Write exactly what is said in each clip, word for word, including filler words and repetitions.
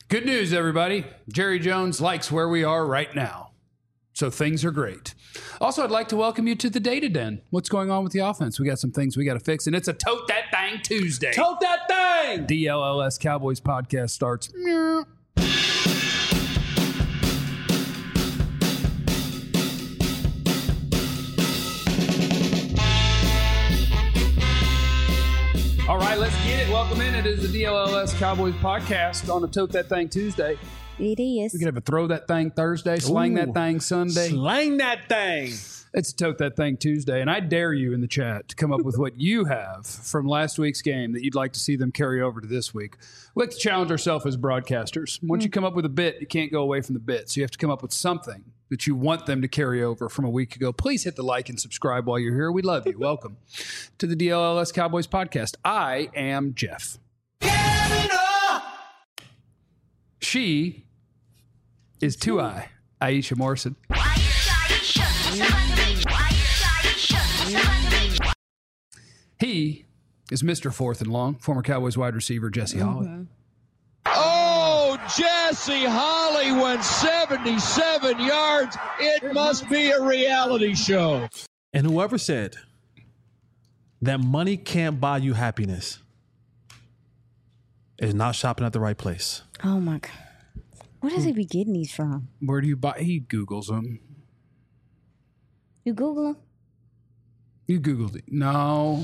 Good news, everybody. Jerry Jones likes where we are right now. So things are great. Also, I'd like to welcome you to the Data Den. What's going on with the offense? We got some things we got to fix, and it's a Tote That Thing Tuesday. Tote that thing! D L L S Cowboys podcast starts. All right, let's get it. Welcome in. It is the D L L S Cowboys podcast on a Tote That Thing Tuesday. It is. We could have a Throw That Thing Thursday, Slang Ooh. That Thing Sunday. Slang that thing. It's a Tote That Thing Tuesday, and I dare you in the chat to come up with what you have from last week's game that you'd like to see them carry over to this week. We like to challenge ourselves as broadcasters. Once you come up with a bit, you can't go away from the bit, so you have to come up with something that you want them to carry over from a week ago. Please hit the like and subscribe while you're here. We love you. Welcome to the D L L S Cowboys podcast. I am Jeff. She is two I, Aisha Morrison. He is Mister Fourth and Long, former Cowboys wide receiver Jesse Holley. Mm-hmm. Oh, Jesse Holley went seventy-seven yards. It must be a reality show. And whoever said that money can't buy you happiness is not shopping at the right place. Oh my God. Where does he be getting these from? Where do you buy? He Googles them. You Google them? You Googled it. No.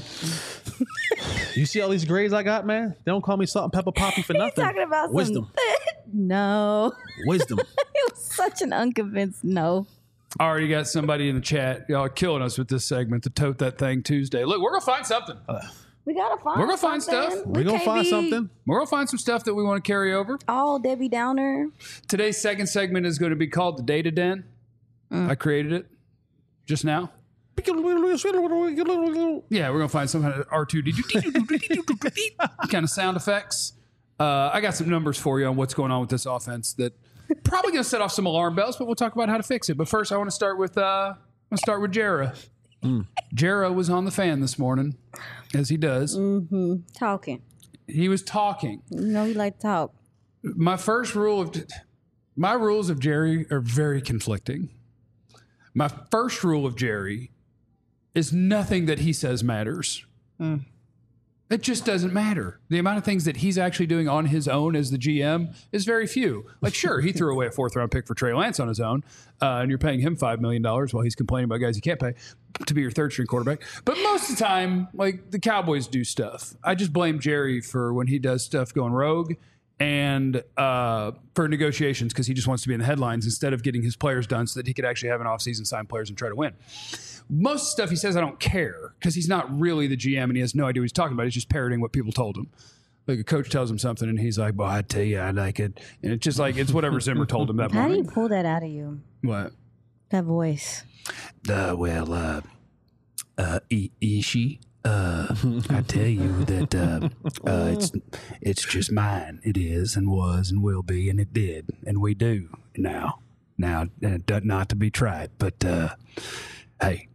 You see all these grades I got, man? They don't call me Salt and Pepper Poppy for nothing. Talking about Wisdom. Some... no. Wisdom. It was such an unconvinced no. Already got somebody in the chat. Y'all are killing us with this segment, the Tote That Thing Tuesday. Look, we're going to find something. We gotta find. We're gonna find something. stuff. We're We going to can't find be something. We're going to find some stuff that we want to carry over. All Debbie Downer. Today's second segment is going to be called the Data Den. Mm. I created it just now. Yeah, we're going to find some kind of R two D two kind of sound effects. Uh, I got some numbers for you on what's going on with this offense that probably going to set off some alarm bells, but we'll talk about how to fix it. But first, I want to start with uh, I'm going to start with Jara. Mm. Jara was on the fan this morning, as he does. Mm-hmm. Talking. He was talking. You know he like to talk. My first rule of my rules of Jerry are very conflicting. My first rule of Jerry is nothing that he says matters. Mm. It just doesn't matter. The amount of things that he's actually doing on his own as the G M is very few. Like, sure, he threw away a fourth round pick for Trey Lance on his own, uh, and you're paying him five million dollars while he's complaining about guys you can't pay to be your third string quarterback. But most of the time, like, the Cowboys do stuff. I just blame Jerry for when he does stuff going rogue and uh, for negotiations because he just wants to be in the headlines instead of getting his players done so that he could actually have an offseason, sign players, and try to win. Most of the stuff he says I don't care because he's not really the G M and he has no idea what he's talking about. He's just parroting what people told him. Like a coach tells him something and he's like, well, I tell you, I like it. And it's just like, it's whatever Zimmer told him that How morning. do you pull that out of you? What? That voice. Uh, well, uh, uh, I- Ishi, uh, I tell you that uh, uh, it's it's just mine. It is and was and will be and it did and we do now. Now, uh, not to be tried, but uh, hey.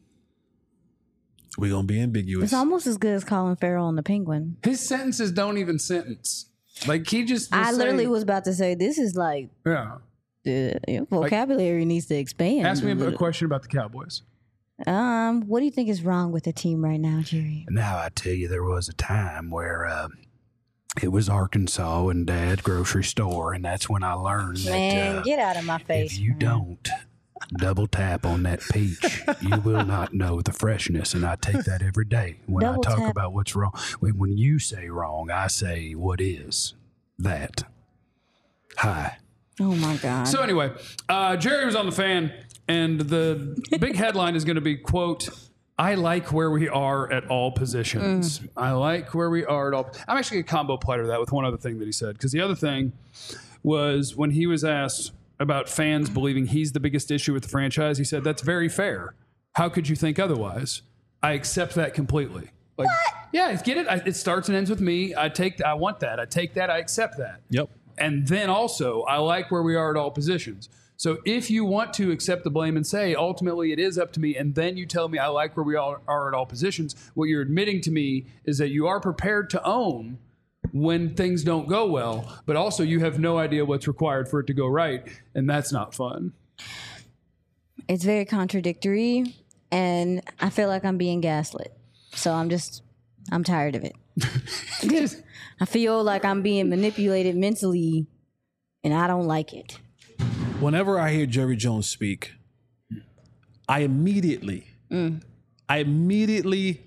We're going to be ambiguous. It's almost as good as Colin Farrell on the Penguin. His sentences don't even sentence. Like he just. I say- literally was about to say this is like Yeah. the your vocabulary needs to expand. Ask me a question about the Cowboys. Um, what do you think is wrong with the team right now, Jerry? Now I tell you, there was a time where uh, it was Arkansas and Dad's grocery store, and that's when I learned that Man, uh, get out of my face. if you man. don't double tap on that peach, you will not know the freshness. And I take that every day when Double I talk tap. about what's wrong. When when you say wrong, I say what is that. Hi. Oh my God. So anyway, uh, Jerry was on the fan, and the big headline is going to be, quote, I like where we are at all positions. Mm. I like where we are at all. I'm actually going to combo platter that with one other thing that he said, because the other thing was when he was asked about fans believing he's the biggest issue with the franchise, he said, that's very fair. How could you think otherwise? I accept that completely. Like, what? Yeah, get it? I, it starts and ends with me. I take. I want that. I take that. I accept that. Yep. And then also, I like where we are at all positions. So if you want to accept the blame and say, ultimately, it is up to me, and then you tell me I like where we all are at all positions, what you're admitting to me is that you are prepared to own when things don't go well, but also you have no idea what's required for it to go right, and that's not fun. It's very contradictory, and I feel like I'm being gaslit. So I'm just, I'm tired of it. I feel like I'm being manipulated mentally, and I don't like it. Whenever I hear Jerry Jones speak, I immediately, mm. I immediately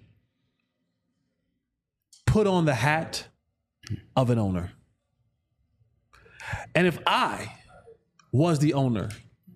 put on the hat of an owner. And if I was the owner,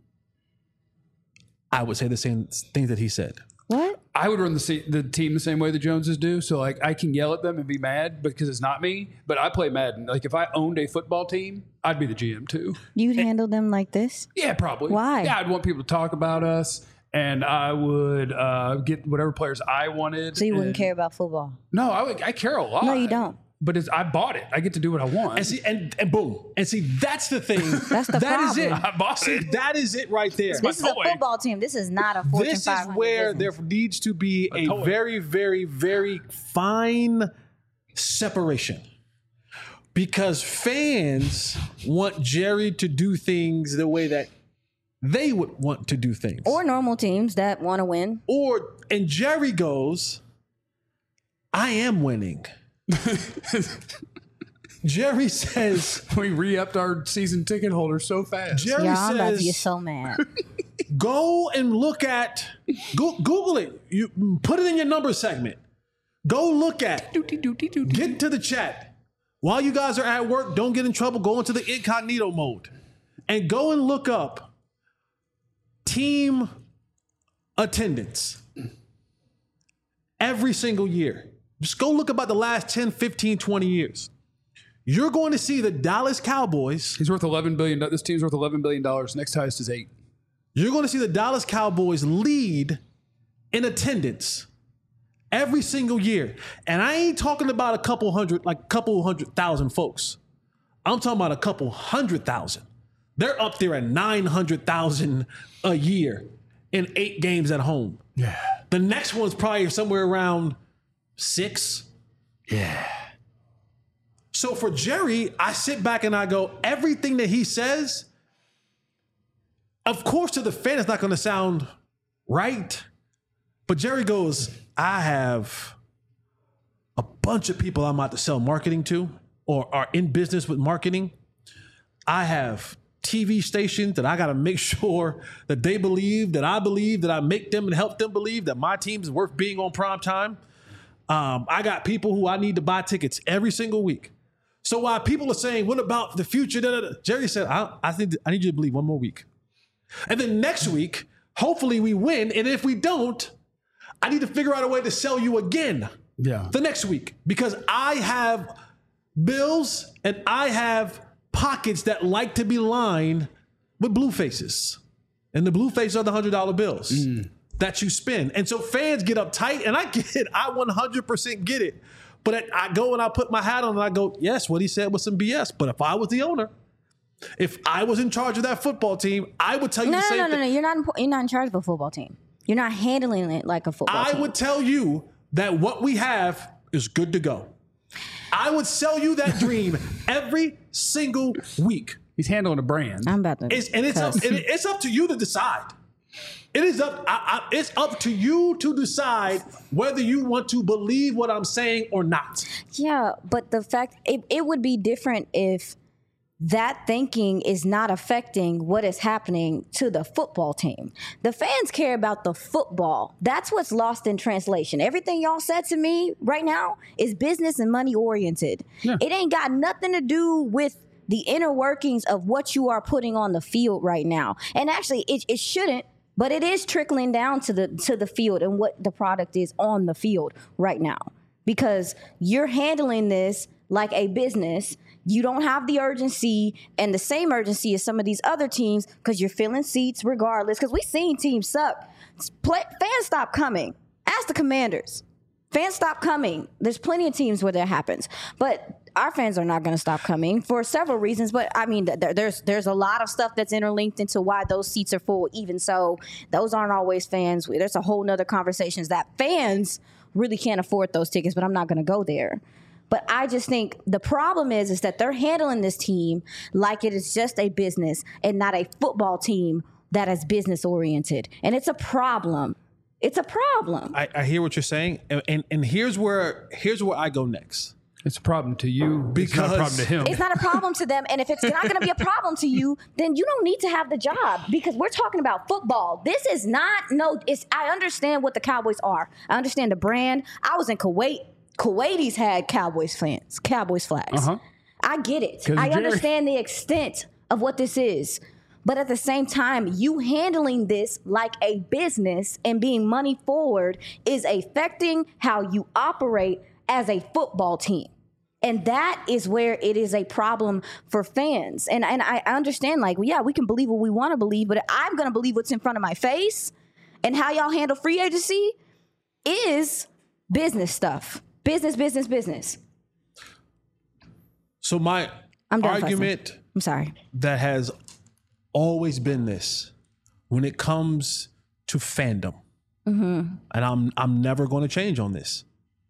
I would say the same things that he said. What? I would run the the team the same way the Joneses do. So, like, I can yell at them and be mad because it's not me, but I play Madden. Like, if I owned a football team, I'd be the G M too. You'd handle them like this? Yeah, probably. Why? Yeah, I'd want people to talk about us, and I would uh, get whatever players I wanted. So you wouldn't and, care about football? No, I, would, I care a lot. No, you don't. But it's, I bought it. I get to do what I want. And see, and, and boom. And see, that's the thing. That's the that problem. is it. I bought see, it. that is it right there. This is toy. a football team. This is not a Fortune This is five hundred where business. there needs to be a, toy. very, very, very fine separation. Because fans want Jerry to do things the way that they would want to do things. Or normal teams that want to win. Or, and Jerry goes, I am winning. Jerry says, we re-upped our season ticket holders so fast. Jerry Yeah, I'm about to says, get so mad. go and look at, go, Google it. You put it in your number segment. Go look at, get to the chat. While you guys are at work, don't get in trouble. Go into the incognito mode and go and look up team attendance every single year. Just go look about the last ten, fifteen, twenty years. You're going to see the Dallas Cowboys. He's worth eleven billion dollars. This team's worth eleven billion dollars. Next highest is eight. You're going to see the Dallas Cowboys lead in attendance every single year. And I ain't talking about a couple hundred, like a couple hundred thousand folks. I'm talking about a couple hundred thousand. They're up there at nine hundred thousand a year in eight games at home. Yeah. The next one's probably somewhere around six. Yeah. So for Jerry, I sit back and I go, everything that he says, of course, to the fan, it's not going to sound right. But Jerry goes, I have a bunch of people I'm about to sell marketing to or are in business with marketing. I have T V stations that I got to make sure that they believe, that I believe, that I make them and help them believe that my team is worth being on prime time. Um, I got people who I need to buy tickets every single week. So while people are saying, what about the future? Da, da, da, Jerry said, I, I think I need you to believe one more week. And then next week, hopefully we win. And if we don't, I need to figure out a way to sell you again Yeah. the next week because I have bills and I have pockets that like to be lined with blue faces. And the blue faces are the one hundred dollar bills mm. that you spend. And so fans get uptight, and I get it. I one hundred percent get it. But I go and I put my hat on and I go, yes, what he said was some B S. But if I was the owner, if I was in charge of that football team, I would tell you no, the no, same no, no, thing. no. You're not. In, you're not in charge of a football team. You're not handling it like a football I team. would tell you that what we have is good to go. I would sell you that dream every single week. He's handling a brand. I'm about to. It's, and it's up, and it's up to you to decide. It is up. I, I, it's up to you to decide whether you want to believe what I'm saying or not. Yeah, but the fact it, it would be different if that thinking is not affecting what is happening to the football team. The fans care about the football. That's what's lost in translation. Everything y'all said to me right now is business and money oriented. Yeah. It ain't got nothing to do with the inner workings of what you are putting on the field right now. And actually, it, it shouldn't, but it is trickling down to the to the field and what the product is on the field right now. Because you're handling this like a business. You don't have the urgency and the same urgency as some of these other teams because you're filling seats regardless. Because we've seen teams suck. Play, fans stop coming. Ask the Commanders. Fans stop coming. There's plenty of teams where that happens. But our fans are not going to stop coming for several reasons. But, I mean, there, there's there's a lot of stuff that's interlinked into why those seats are full. Even so, those aren't always fans. There's a whole nother conversations that fans really can't afford those tickets, but I'm not going to go there. But I just think the problem is, is that they're handling this team like it is just a business and not a football team that is business oriented. And it's a problem. It's a problem. I, I hear what you're saying. And, and and here's where here's where I go next. It's a problem to you. Because it's not a problem to him. It's not a problem to them. And if it's not going to be a problem to you, then you don't need to have the job, because we're talking about football. This is not, no, it's, I understand what the Cowboys are. I understand the brand. I was in Kuwait. Kuwaitis had Cowboys fans, Cowboys flags. Uh-huh. I get it. I Jerry. understand the extent of what this is. But at the same time, you handling this like a business and being money forward is affecting how you operate as a football team. And that is where it is a problem for fans. And and I understand, like, yeah, we can believe what we want to believe, but I'm going to believe what's in front of my face. And how y'all handle free agency is business stuff. Business, business, business. So my I'm done argument fussing. I'm sorry. that has always been this when it comes to fandom, mm-hmm. and I'm I'm never going to change on this.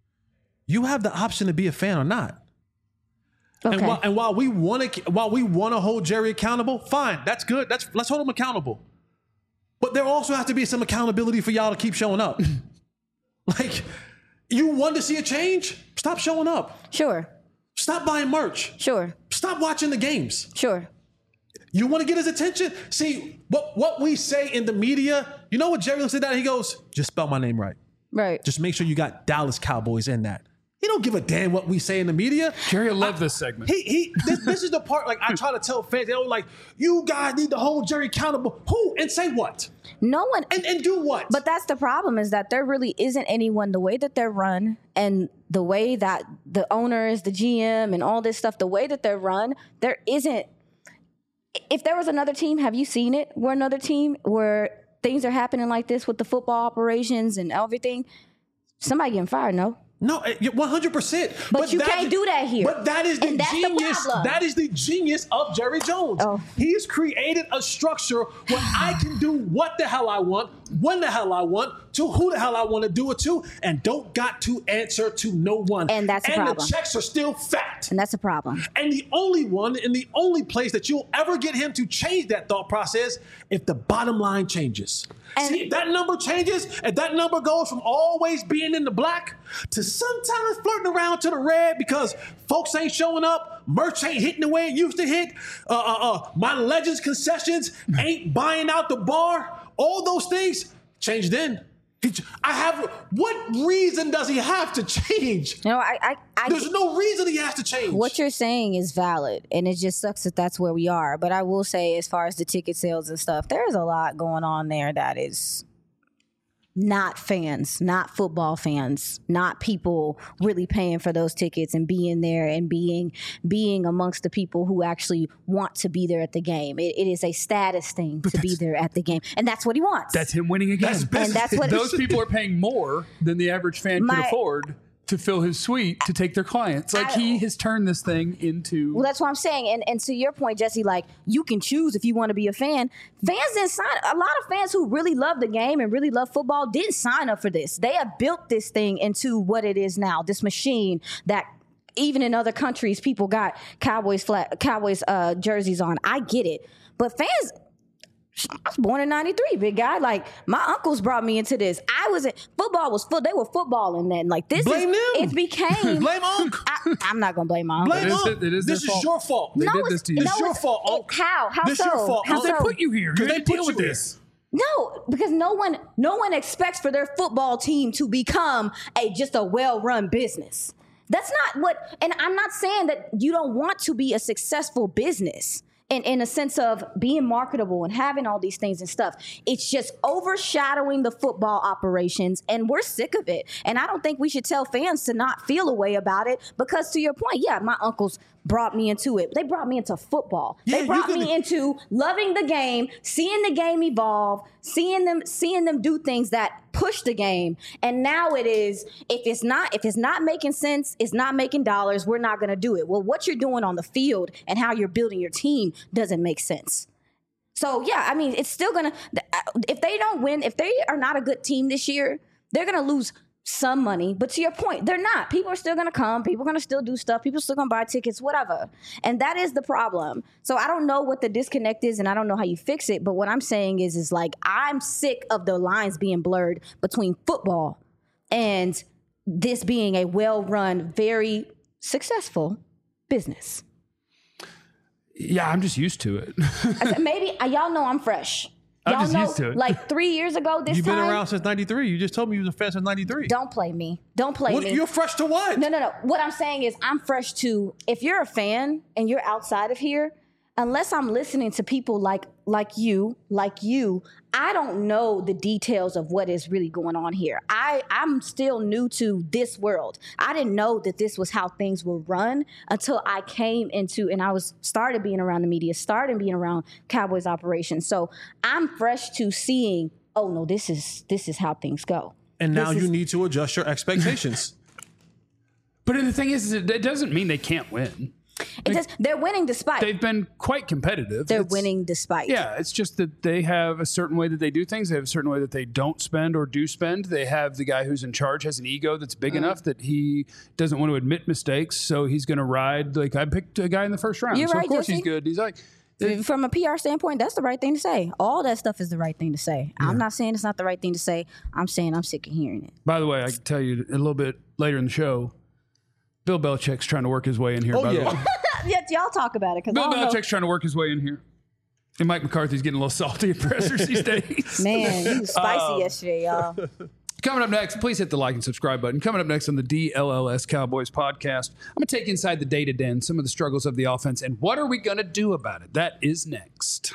You have the option to be a fan or not. Okay. And while, and while we want to while we want to hold Jerry accountable, fine, that's good. That's let's hold him accountable. But there also has to be some accountability for y'all to keep showing up. Like, you want to see a change? Stop showing up. Sure. Stop buying merch. Sure. Stop watching the games. Sure. You want to get his attention? See, what, what we say in the media, you know what Jerry looks at that and he goes, just spell my name right. Right. Just make sure you got Dallas Cowboys in that. He don't give a damn what we say in the media. Jerry loved I, this segment. He he. This, this is the part, like, I try to tell fans, they're like, you guys need to hold Jerry accountable. Who? And say what? No one. And and do what? But that's the problem, is that there really isn't anyone, the way that they're run and the way that the owners, the G M and all this stuff, the way that they're run, there isn't. If there was another team, have you seen it? Where another team where things are happening like this with the football operations and everything, somebody getting fired, no? No, one hundred percent. But, but you that, can't do that here. But that is the and that's genius. The problem. That is the genius of Jerry Jones. Oh. He's created a structure where I can do what the hell I want, when the hell I want, to who the hell I want to do it to, and don't got to answer to no one. And that's a and problem. the checks are still fat. And that's a problem. And the only one, and the only place that you'll ever get him to change that thought process, if the bottom line changes. And See, if that number changes, if that number goes from always being in the black to sometimes flirting around to the red because folks ain't showing up, merch ain't hitting the way it used to hit, uh, uh, uh, my Legends concessions ain't buying out the bar, all those things change then. I have. What reason does he have to change? No, I, I, I. There's no reason he has to change. What you're saying is valid, and it just sucks that that's where we are. But I will say, as far as the ticket sales and stuff, there's a lot going on there that is not fans, not football fans, not people really paying for those tickets and being there and being being amongst the people who actually want to be there at the game. It, it is a status thing to be there at the game, and that's what he wants. That's him winning again. That's and that's what Those people are paying more than the average fan My- could afford to fill his suite to take their clients. Like, I- he has turned this thing into. Well, that's what I'm saying. And and to your point, Jesse, like, you can choose if you want to be a fan. Fans didn't sign. A lot of fans who really love the game and really love football didn't sign up for this. They have built this thing into what it is now. This machine that even in other countries, people got Cowboys flat, Cowboys uh, jerseys on. I get it, but fans. I was born in ninety-three, big guy. Like, my uncles brought me into this. I was in football was full. They were footballing then. Like, this Blame is them. it became. Blame Unc. I, I'm not gonna blame my uncle. Blame It is- Unc. it is This their is fault. your fault. They No, did it's- this to you. no, It's your it's- fault, it- Unc. how? How This so? your fault, How Unc. They so? put you here. You Because had they to put deal you with here. this. No, because no one, no one expects for their football team to become a just a well-run business. That's not what. And I'm not saying that you don't want to be a successful business. In, in a sense of being marketable and having all these things and stuff. It's just overshadowing the football operations, and we're sick of it. And I don't think we should tell fans to not feel a way about it, because to your point, yeah, my uncles brought me into it. They brought me into football. Yeah, they you brought could- me into loving the game, seeing the game evolve, seeing them seeing them do things that push the game. And now it is, if it's not if it's not making sense, it's not making dollars, we're not going to do it. Well, what you're doing on the field and how you're building your team doesn't make sense. So, yeah, I mean, it's still going to, if they don't win, if they are not a good team this year, they're going to lose some money, but to your point, they're not. People are still going to come. People are going to still do stuff. People are still going to buy tickets, whatever. And that is the problem. So I don't know what the disconnect is, and I don't know how you fix it. But what I'm saying is, is like, I'm sick of the lines being blurred between football and this being a well-run, very successful business. Yeah, I'm just used to it. I said, maybe uh, y'all know I'm fresh. I'm Y'all just know, used to it. like three years ago this You've time. been around since ninety-three. You just told me you was a fan since ninety-three. Don't play me. Don't play What, me. you're fresh to what? No, no, no. What I'm saying is I'm fresh to, if you're a fan and you're outside of here, unless I'm listening to people like like you, like you, I don't know the details of what is really going on here. I, I'm still new to this world. I didn't know that this was how things were run until I came into, and I was started being around the media, started being around Cowboys operations. So I'm fresh to seeing, oh no, this is this is how things go. And now This you is- need to adjust your expectations. But the thing is, is it, it doesn't mean they can't win. It just, they're winning despite. They've been quite competitive. They're It's- winning despite. Yeah, it's just that they have a certain way that they do things. They have a certain way that they don't spend or do spend. They have the guy who's in charge has an ego that's big Mm. enough that he doesn't want to admit mistakes. So he's going to ride. Like I picked a guy in the first round. You're so right, of course Jesse. he's good. He's like, From a P R standpoint, that's the right thing to say. All that stuff is the right thing to say. I'm not saying it's not the right thing to say. I'm saying I'm sick of hearing it. by the way, I can tell you a little bit later in the show, Bill Belichick's trying to work his way in here. Oh, by the yeah. way. Yeah, y'all talk about it. Bill I don't Belichick's trying to work his way in here. And Mike McCarthy's getting a little salty at pressers these days. know. Man, he was spicy Um, yesterday, y'all. Coming up next, please hit the like and subscribe button. Coming up next on the D L L S Cowboys podcast, I'm going to take you inside the data den, some of the struggles of the offense, and what are we going to do about it? That is next.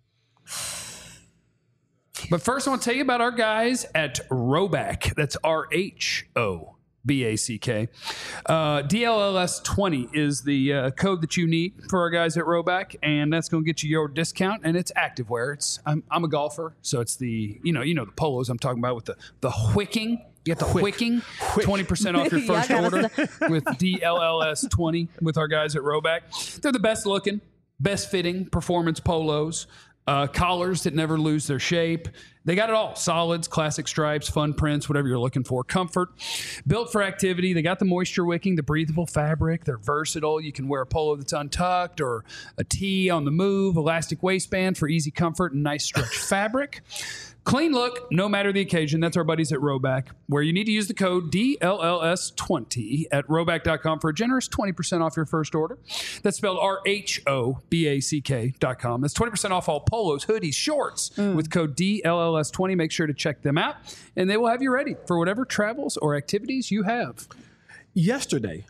But first, I want to tell you about our guys at Rhoback. That's R H O B A C K. Uh, D L L S twenty is the uh, code that you need for our guys at Rhoback, and that's going to get you your discount. And it's activewear. It's I'm, I'm a golfer, so it's the you know you know the polos I'm talking about with the the wicking. You get the wicking, twenty percent off your Y'all first gotta order with D L L S twenty with our guys at Rhoback. They're the best looking, best fitting performance polos. Uh, collars that never lose their shape. They got it all. Solids, classic stripes, fun prints, whatever you're looking for. Comfort. Built for activity. They got the moisture wicking, the breathable fabric. They're versatile. You can wear a polo that's untucked or a tee on the move. Elastic waistband for easy comfort and nice stretch fabric. Clean look, no matter the occasion. That's our buddies at Rhoback, where you need to use the code D L L S twenty at rhoback dot com for a generous twenty percent off your first order. That's spelled R H O B A C K dot com. That's twenty percent off all polos, hoodies, shorts with code D L L S twenty. Make sure to check them out, and they will have you ready for whatever travels or activities you have. Yesterday,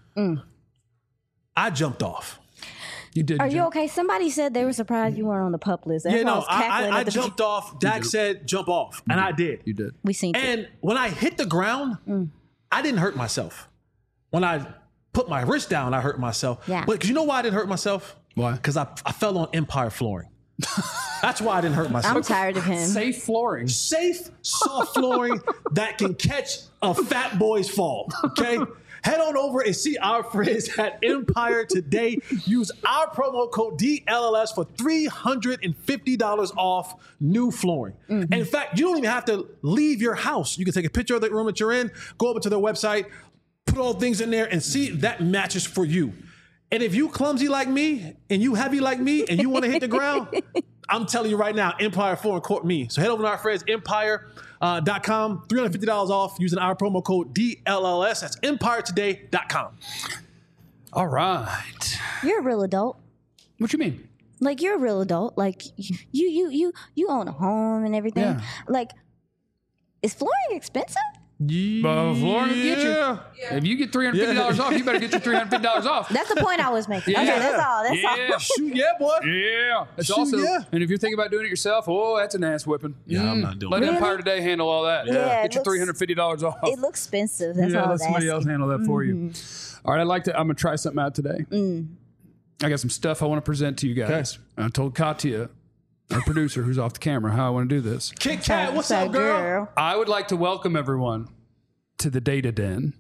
I jumped off. You did. Are Jim. you okay? Somebody said they were surprised you weren't on the pup list. That's Yeah, why I no, was I, cackling I, I at the jumped off. Dak said jump off, and I did. You did. We seen it. And when I hit the ground, I didn't hurt myself. When I put my wrist down, I hurt myself. Yeah. But 'cause you know why I didn't hurt myself? Why? Because I, I fell on Empire flooring. That's why I didn't hurt myself. I'm tired of him. Safe flooring. Safe, soft flooring that can catch a fat boy's fall. Okay? Head on over and see our friends at Empire today. Use our promo code D L L S for three hundred fifty dollars off new flooring. And in fact, you don't even have to leave your house. You can take a picture of the room that you're in, go over to their website, put all things in there, and see if that matches for you. And if you clumsy like me and you heavy like me and you want to hit the ground, I'm telling you right now, Empire Flooring court me. So head over to our friends, empire dot com, three hundred fifty dollars off using our promo code D L L S. That's empire today dot com. All right. You're a real adult. What you mean? Like you're a real adult. Like you, you, you, you own a home and everything. Yeah. Like, is flooring expensive? Uh, flooring will get you. If you get three hundred fifty dollars Yeah. off, you better get your three hundred fifty dollars off. That's the point I was making. Yeah. Okay, that's all. That's Yeah. all. Shoot, yeah, boy. Yeah. It's Shoot, also, yeah. and if you're thinking about doing it yourself, oh, that's an ass whipping. Yeah, I'm not doing Let that. Really? Empire Today handle all that. Yeah, it Get your looks- three hundred fifty dollars off. It looks expensive. That's yeah, all I let was somebody asking. else handle that for you. All right, I'd like to, I'm going to try something out today. I got some stuff I want to present to you guys. I told Katya, our producer who's off the camera, how I want to do this. Kit Kat, what's So, up, girl? I would like to welcome everyone to the Data Den.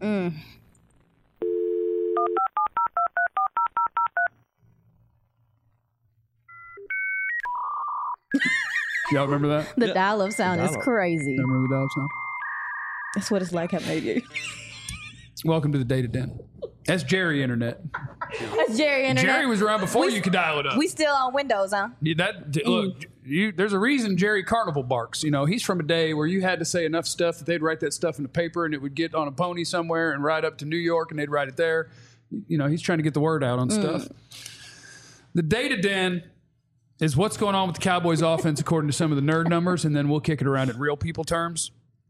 Y'all remember that? The dial-up sound is crazy. Remember the dial sound? That's what it's like at Media. Welcome to the Data Den. That's Jerry Internet. That's Jerry Internet. Jerry was around before We- you could dial it up. We still on Windows, huh? Yeah, that look, you, there's a reason Jerry Carnival barks. You know, he's from a day where you had to say enough stuff that they'd write that stuff in the paper and it would get on a pony somewhere and ride up to New York and they'd write it there. You know, he's trying to get the word out on stuff. The Data Den is what's going on with the Cowboys offense according to some of the nerd numbers, and then we'll kick it around at real people terms.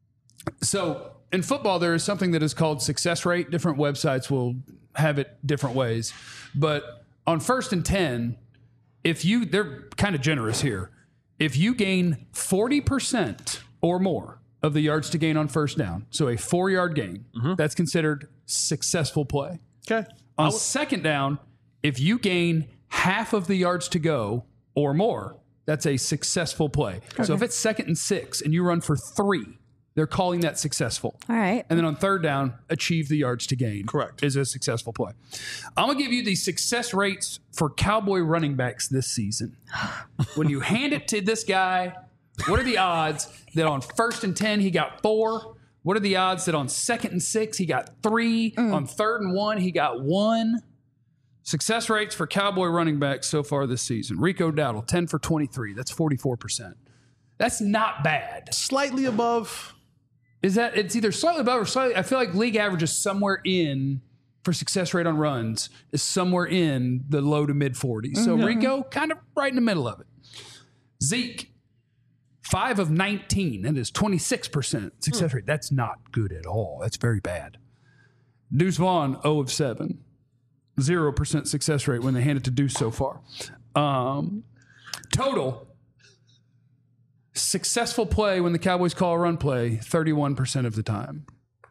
So in football, there is something that is called success rate. Different websites will have it different ways. But on first and ten, if you, they're kind of generous here. If you gain forty percent or more of the yards to gain on first down, so a four-yard gain, mm-hmm. that's considered successful play. Okay. On w- second down, if you gain half of the yards to go or more, that's a successful play. Okay. So if it's second and six and you run for three, they're calling that successful. All right. And then on third down, achieve the yards to gain. Correct. Is a successful play. I'm going to give you the success rates for Cowboy running backs this season. When you hand it to this guy, what are the odds that on first and ten, he got four? What are the odds that on second and six, he got three? Mm. On third and one, he got one? Success rates for Cowboy running backs so far this season. Rico Dowdle, ten for twenty-three. That's forty-four percent. That's not bad. Slightly above. Is that, it's either slightly above or slightly, I feel like league average is somewhere in, for success rate on runs, is somewhere in the low to mid forties. Mm-hmm. So Rico, kind of right in the middle of it. Zeke, five of nineteen. That is twenty-six percent success mm. rate. That's not good at all. That's very bad. Deuce Vaughn, zero of seven. zero percent success rate when they hand it to Deuce so far. Um, total successful play when the Cowboys call a run play, thirty-one percent of the time.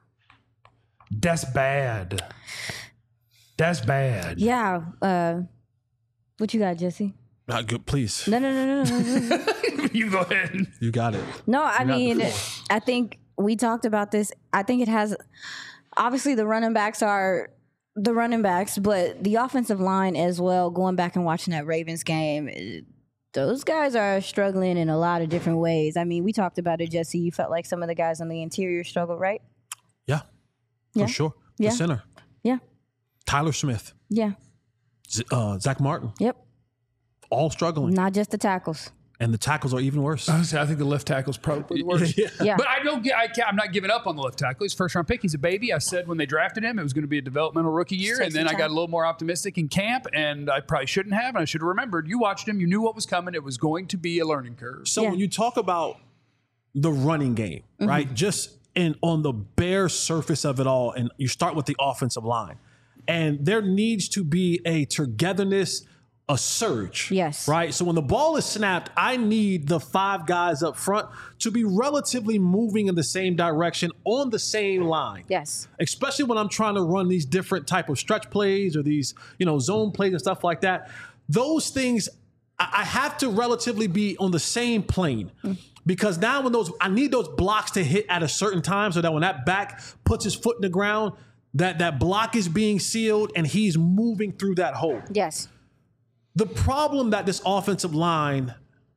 That's bad. That's bad. Yeah. Uh, what you got, Jesse? Not good, please. No, no, no, no, no. no. You go ahead. You got it. No, I you mean, I think we talked about this. I think it has, obviously the running backs are the running backs, but the offensive line as well, going back and watching that Ravens game, it, those guys are struggling in a lot of different ways. I mean, we talked about it, Jesse. You felt like some of the guys on the interior struggled, right? Yeah, yeah. for sure. Yeah. The center. Yeah. Tyler Smith. Yeah. Z- uh, Zach Martin. Yep. All struggling. Not just the tackles. And the tackles are even worse. Honestly, I think the left tackle's probably the worst. yeah. Yeah. But I don't get. I can't, I'm not giving up on the left tackle. He's first round pick. He's a baby. I said when they drafted him, it was going to be a developmental rookie year, Six and then I got a little more optimistic in camp, and I probably shouldn't have, and I should have remembered. You watched him. You knew what was coming. It was going to be a learning curve. So Yeah. when you talk about the running game, mm-hmm. right? Just in on the bare surface of it all, and you start with the offensive line, and there needs to be a togetherness, a surge. Yes. Right? So when the ball is snapped, I need the five guys up front to be relatively moving in the same direction on the same line. Yes. Especially when I'm trying to run these different type of stretch plays or these, you know, zone plays and stuff like that. Those things, I, I have to relatively be on the same plane. Mm. Because now when those, I need those blocks to hit at a certain time so that when that back puts his foot in the ground, that that block is being sealed and he's moving through that hole. Yes. The problem that this offensive line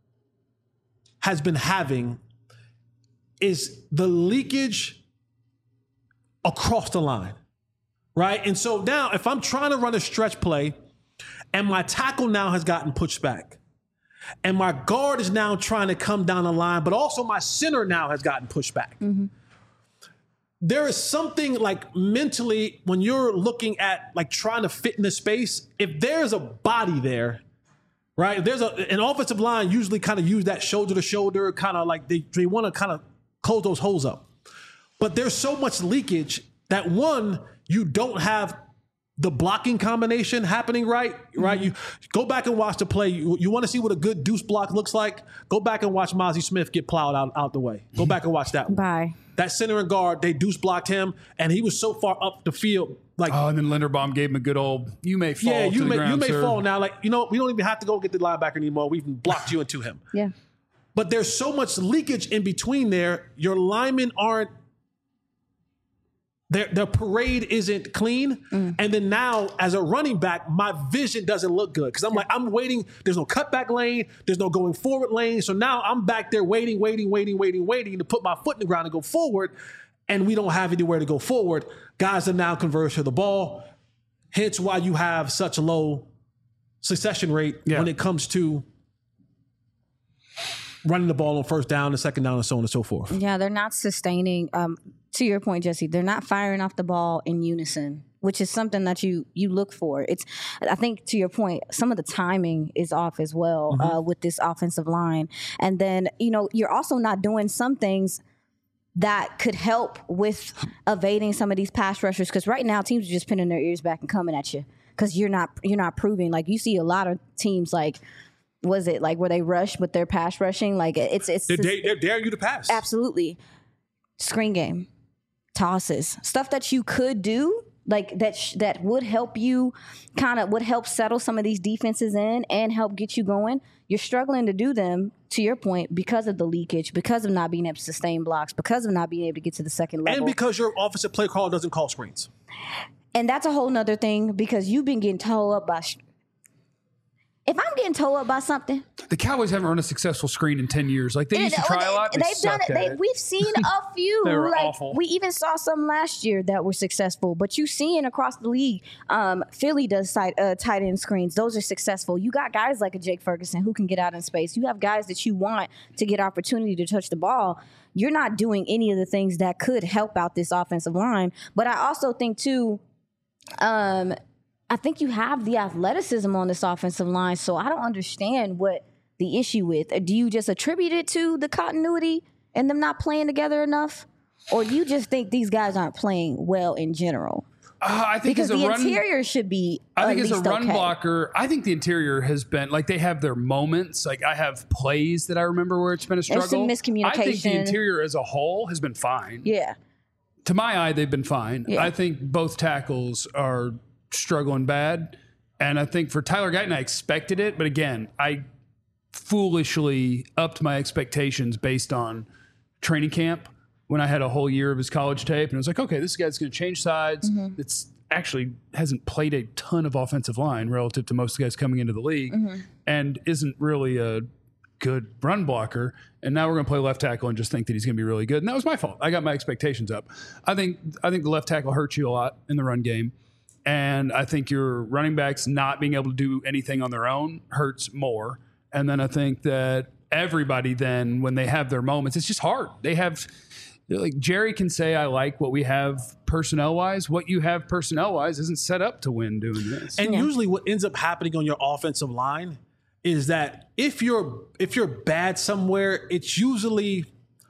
has been having is the leakage across the line, right? And so now if I'm trying to run a stretch play and my tackle now has gotten pushed back and my guard is now trying to come down the line, but also my center now has gotten pushed back. Mm-hmm. There is something like mentally when you're looking at like trying to fit in the space, if there's a body there, right? If there's a, an offensive line usually kind of use that shoulder to shoulder, kind of like they, they want to kind of close those holes up. But there's so much leakage that one, you don't have the blocking combination happening right, right? Mm-hmm. You go back and watch the play. You, you want to see what a good deuce block looks like? Go back and watch Mozzie Smith get plowed out, out the way. Go back and watch that one. Bye. That center and guard, they deuce blocked him, and he was so far up the field. Like, oh, and then Linderbaum gave him a good old, you may fall yeah, you to may, the ground, you may sir. fall now. Like, you know, we don't even have to go get the linebacker anymore. We've blocked you into him. Yeah. But there's so much leakage in between there. Your linemen aren't, their, their parade isn't clean. Mm. And then now, as a running back, my vision doesn't look good. Because I'm like, I'm waiting. There's no cutback lane. There's no going forward lane. So now I'm back there waiting, waiting, waiting, waiting, waiting to put my foot in the ground and go forward. and we don't have anywhere to go forward, guys are now converged to the ball. Hence why you have such a low succession rate yeah. when it comes to running the ball on first down and second down and so on and so forth. Yeah, they're not sustaining. Um, to your point, Jesse, they're not firing off the ball in unison, which is something that you you look for. It's, I think, to your point, some of the timing is off as well mm-hmm. uh, with this offensive line. And then, you know, you're also not doing some things that could help with evading some of these pass rushers, because right now teams are just pinning their ears back and coming at you because you're not you're not proving. Like, you see a lot of teams like, was it like where they rush but they're pass rushing? Like it's it's they're, they're daring you to pass. Absolutely. Screen game, tosses, stuff that you could do, like that sh- that would help you, kind of would help settle some of these defenses in and help get you going. You're struggling to do them, to your point, because of the leakage, because of not being able to sustain blocks, because of not being able to get to the second level, and because your offensive play call doesn't call screens. And that's a whole nother thing, because you've been getting told up by. Sh- If I'm getting told up by something, the Cowboys haven't run a successful screen in ten years. Like they used to try they, a lot. They they've done it. They, it. We've seen a few. They were like, awful. We even saw some last year that were successful. But you seeing across the league, um, Philly does tight, uh, tight end screens. Those are successful. You got guys like a Jake Ferguson who can get out in space. You have guys that you want to get opportunity to touch the ball. You're not doing any of the things that could help out this offensive line. But I also think too. Um, I think you have the athleticism on this offensive line, so I don't understand what the issue with. Do you just attribute it to the continuity and them not playing together enough? Or do you just think these guys aren't playing well in general? Uh, I think because as a the run, interior should be I think at as a least run okay. blocker, I think the interior has been, like, they have their moments. Like, I have plays that I remember where it's been a struggle. There's some miscommunication. I think the interior as a whole has been fine. Yeah. To my eye, they've been fine. Yeah. I think both tackles are struggling bad. And I think for Tyler Guyton, I expected it. But again, I foolishly upped my expectations based on training camp when I had a whole year of his college tape. And it was like, okay, this guy's going to change sides. Mm-hmm. It's actually hasn't played a ton of offensive line relative to most guys coming into the league mm-hmm. and isn't really a good run blocker. And now we're going to play left tackle and just think that he's going to be really good. And that was my fault. I got my expectations up. I think I think the left tackle hurts you a lot in the run game. And I think your running backs not being able to do anything on their own hurts more. And then I think that everybody then, when they have their moments, it's just hard. They have, like Jerry can say, I like what we have personnel-wise. What you have personnel-wise isn't set up to win doing this. And yeah. usually what ends up happening on your offensive line is that if you're if you're bad somewhere, it's usually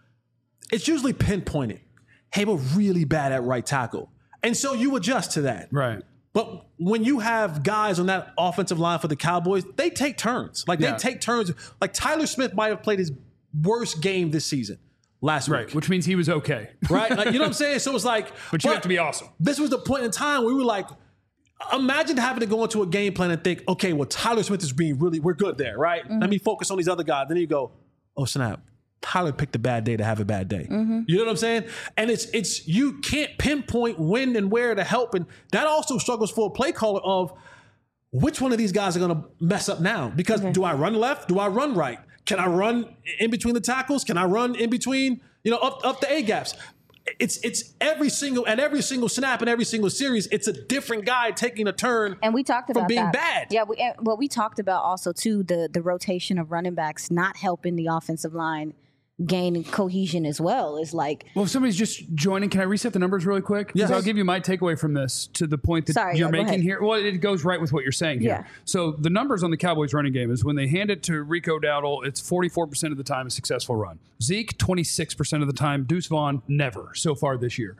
it's usually pinpointed. Hey, we're really bad at right tackle. And so you adjust to that. Right. But when you have guys on that offensive line for the Cowboys, they take turns. Like, yeah. they take turns. Like, Tyler Smith might have played his worst game this season last right. week. Which means he was okay. Right? Like, you know what I'm saying? So it's like... But you but have to be awesome. This was the point in time where we were like, imagine having to go into a game plan and think, okay, well, Tyler Smith is being really... We're good there, right? Mm-hmm. Let me focus on these other guys. Then you go, oh, snap. Tyler picked a bad day to have a bad day. Mm-hmm. You know what I'm saying? And it's it's you can't pinpoint when and where to help. And that also struggles for a play caller of which one of these guys are going to mess up now? Because okay. do I run left? Do I run right? Can I run in between the tackles? Can I run in between, you know, up, up the A gaps? It's it's every single at every single snap and every single series, it's a different guy taking a turn. And we talked about from being that. bad. Yeah, we, well, we talked about also too the the rotation of running backs not helping the offensive line gain cohesion as well. Is like, well, if somebody's just joining, can I reset the numbers really quick? Yes. I'll give you my takeaway from this to the point that Sorry, you're yeah, making here. Well, it goes right with what you're saying here. Yeah. So the numbers on the Cowboys running game is when they hand it to Rico Dowdle, it's forty-four percent of the time a successful run. Zeke, twenty-six percent of the time. Deuce Vaughn, never so far this year.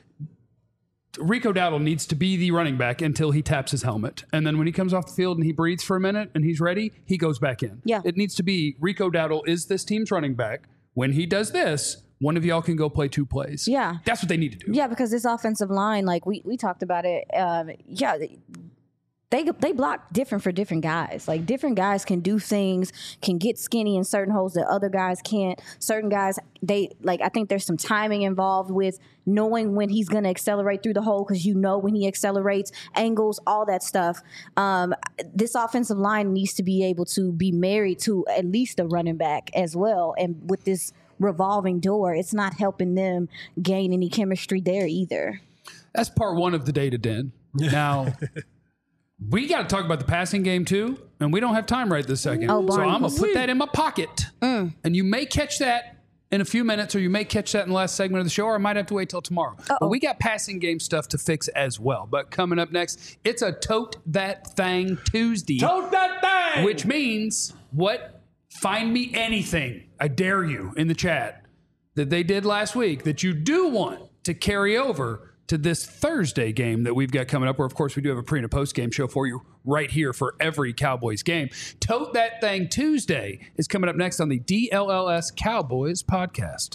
Rico Dowdle needs to be the running back until he taps his helmet. And then when he comes off the field and he breathes for a minute and he's ready, he goes back in. Yeah. It needs to be Rico Dowdle is this team's running back. When he does this, one of y'all can go play two plays. Yeah. That's what they need to do. Yeah, because this offensive line, like we, we talked about it, um, yeah, they they block different for different guys. Like different guys can do things, can get skinny in certain holes that other guys can't. Certain guys, they like I think there's some timing involved with knowing when he's going to accelerate through the hole because you know when he accelerates, angles, all that stuff. Um, this offensive line needs to be able to be married to at least a running back as well. And with this revolving door. It's not helping them gain any chemistry there either. That's part one of the data den. Now, we got to talk about the passing game too, and we don't have time right this second. Oh, so Barney. I'm going to put that in my pocket, mm. and you may catch that in a few minutes, or you may catch that in the last segment of the show, or I might have to wait till tomorrow. Uh-oh. But we got passing game stuff to fix as well. But coming up next, it's a Tote That Thang Tuesday. Tote that thing! Which means, what? Find me anything, I dare you, in the chat, that they did last week that you do want to carry over to this Thursday game that we've got coming up, where, of course, we do have a pre and a post game show for you right here for every Cowboys game. Tote That Thing Tuesday is coming up next on the D L L S Cowboys podcast.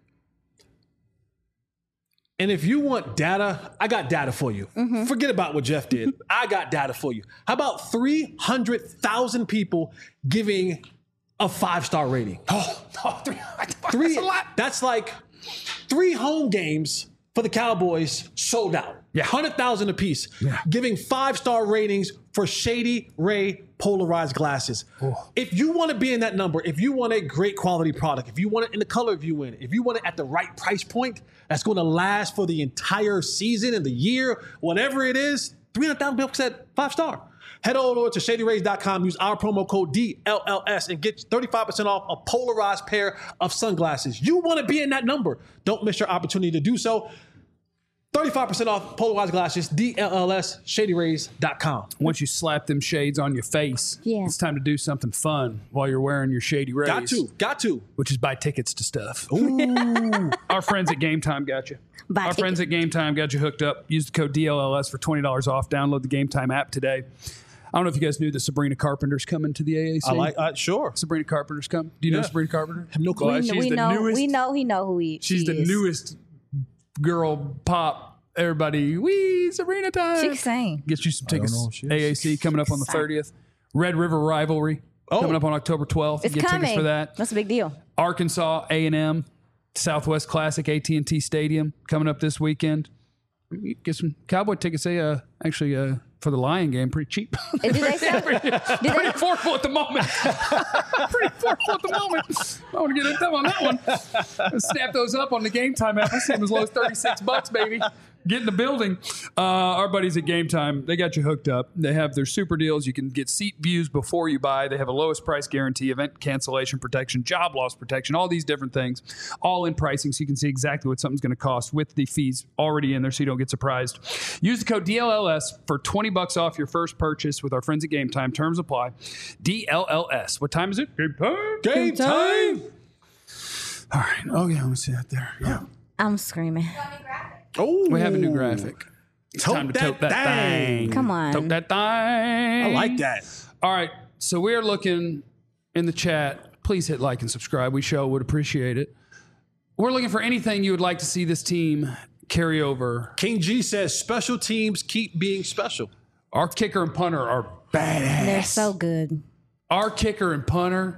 And if you want data, I got data for you. Mm-hmm. Forget about what Jeff did. I got data for you. How about three hundred thousand people giving a five-star rating? Oh, oh three, three, that's a lot. That's like three home games for the Cowboys sold out. Yeah. one hundred thousand apiece. Yeah. Giving five-star ratings for Shady Ray polarized glasses. Oh. If you want to be in that number, if you want a great quality product, if you want it in the color view in, if you want it at the right price point that's going to last for the entire season and the year, whatever it is, three hundred thousand people said five-star. Head over to shady rays dot com, use our promo code D L L S and get thirty-five percent off a polarized pair of sunglasses. You want to be in that number. Don't miss your opportunity to do so. thirty-five percent off polarized glasses, D L L S, shady rays dot com. Once you slap them shades on your face, yeah. it's time to do something fun while you're wearing your Shady Rays. Got to, got to. Which is buy tickets to stuff. Ooh. Our friends at Game Time got you. Buy Our tickets. friends at Game Time got you hooked up. Use the code D L L S for twenty dollars off. Download the Game Time app today. I don't know if you guys knew that Sabrina Carpenter's coming to the A A C. I like, uh, sure. Sabrina Carpenter's come. Do you Yeah. know Sabrina Carpenter? Have no clue. Well, We, she's we the know. newest. We know he know who he. She's she the is. newest girl pop. Everybody, wee Sabrina time. She can sing. Get you some I don't tickets. know if she is. A A C coming up on the Sorry. thirtieth. Red River Rivalry Oh. coming up on October twelfth. It's Get coming. tickets for that. That's a big deal. Arkansas A and M Southwest Classic, A T and T Stadium coming up this weekend. Get some Cowboy tickets. They uh, actually uh, for the Lion game pretty cheap. Did they sell? Did pretty they? affordable at the moment. pretty affordable at the moment. I want to get into on that one. Snap those up on the Game Time app. I see them as low as thirty-six bucks, baby. Get in the building. Uh, our buddies at Game Time, they got you hooked up. They have their super deals. You can get seat views before you buy. They have a lowest price guarantee, event cancellation protection, job loss protection, all these different things, all in pricing, so you can see exactly what something's going to cost with the fees already in there, so you don't get surprised. Use the code D L L S for twenty bucks off your first purchase with our friends at Game Time. Terms apply. D L L S. What time is it? Game time. Game time. All right. Oh yeah, let me see that there. Yeah. I'm screaming. Oh, We have a new graphic. It's Tote time to that tote that thing. thing. Come on. Tote that thing. I like that. All right. So we are looking in the chat. Please hit like and subscribe. We sure would appreciate it. We're looking for anything you would like to see this team carry over. King G says special teams keep being special. Our kicker and punter are badass. They're so good. Our kicker and punter,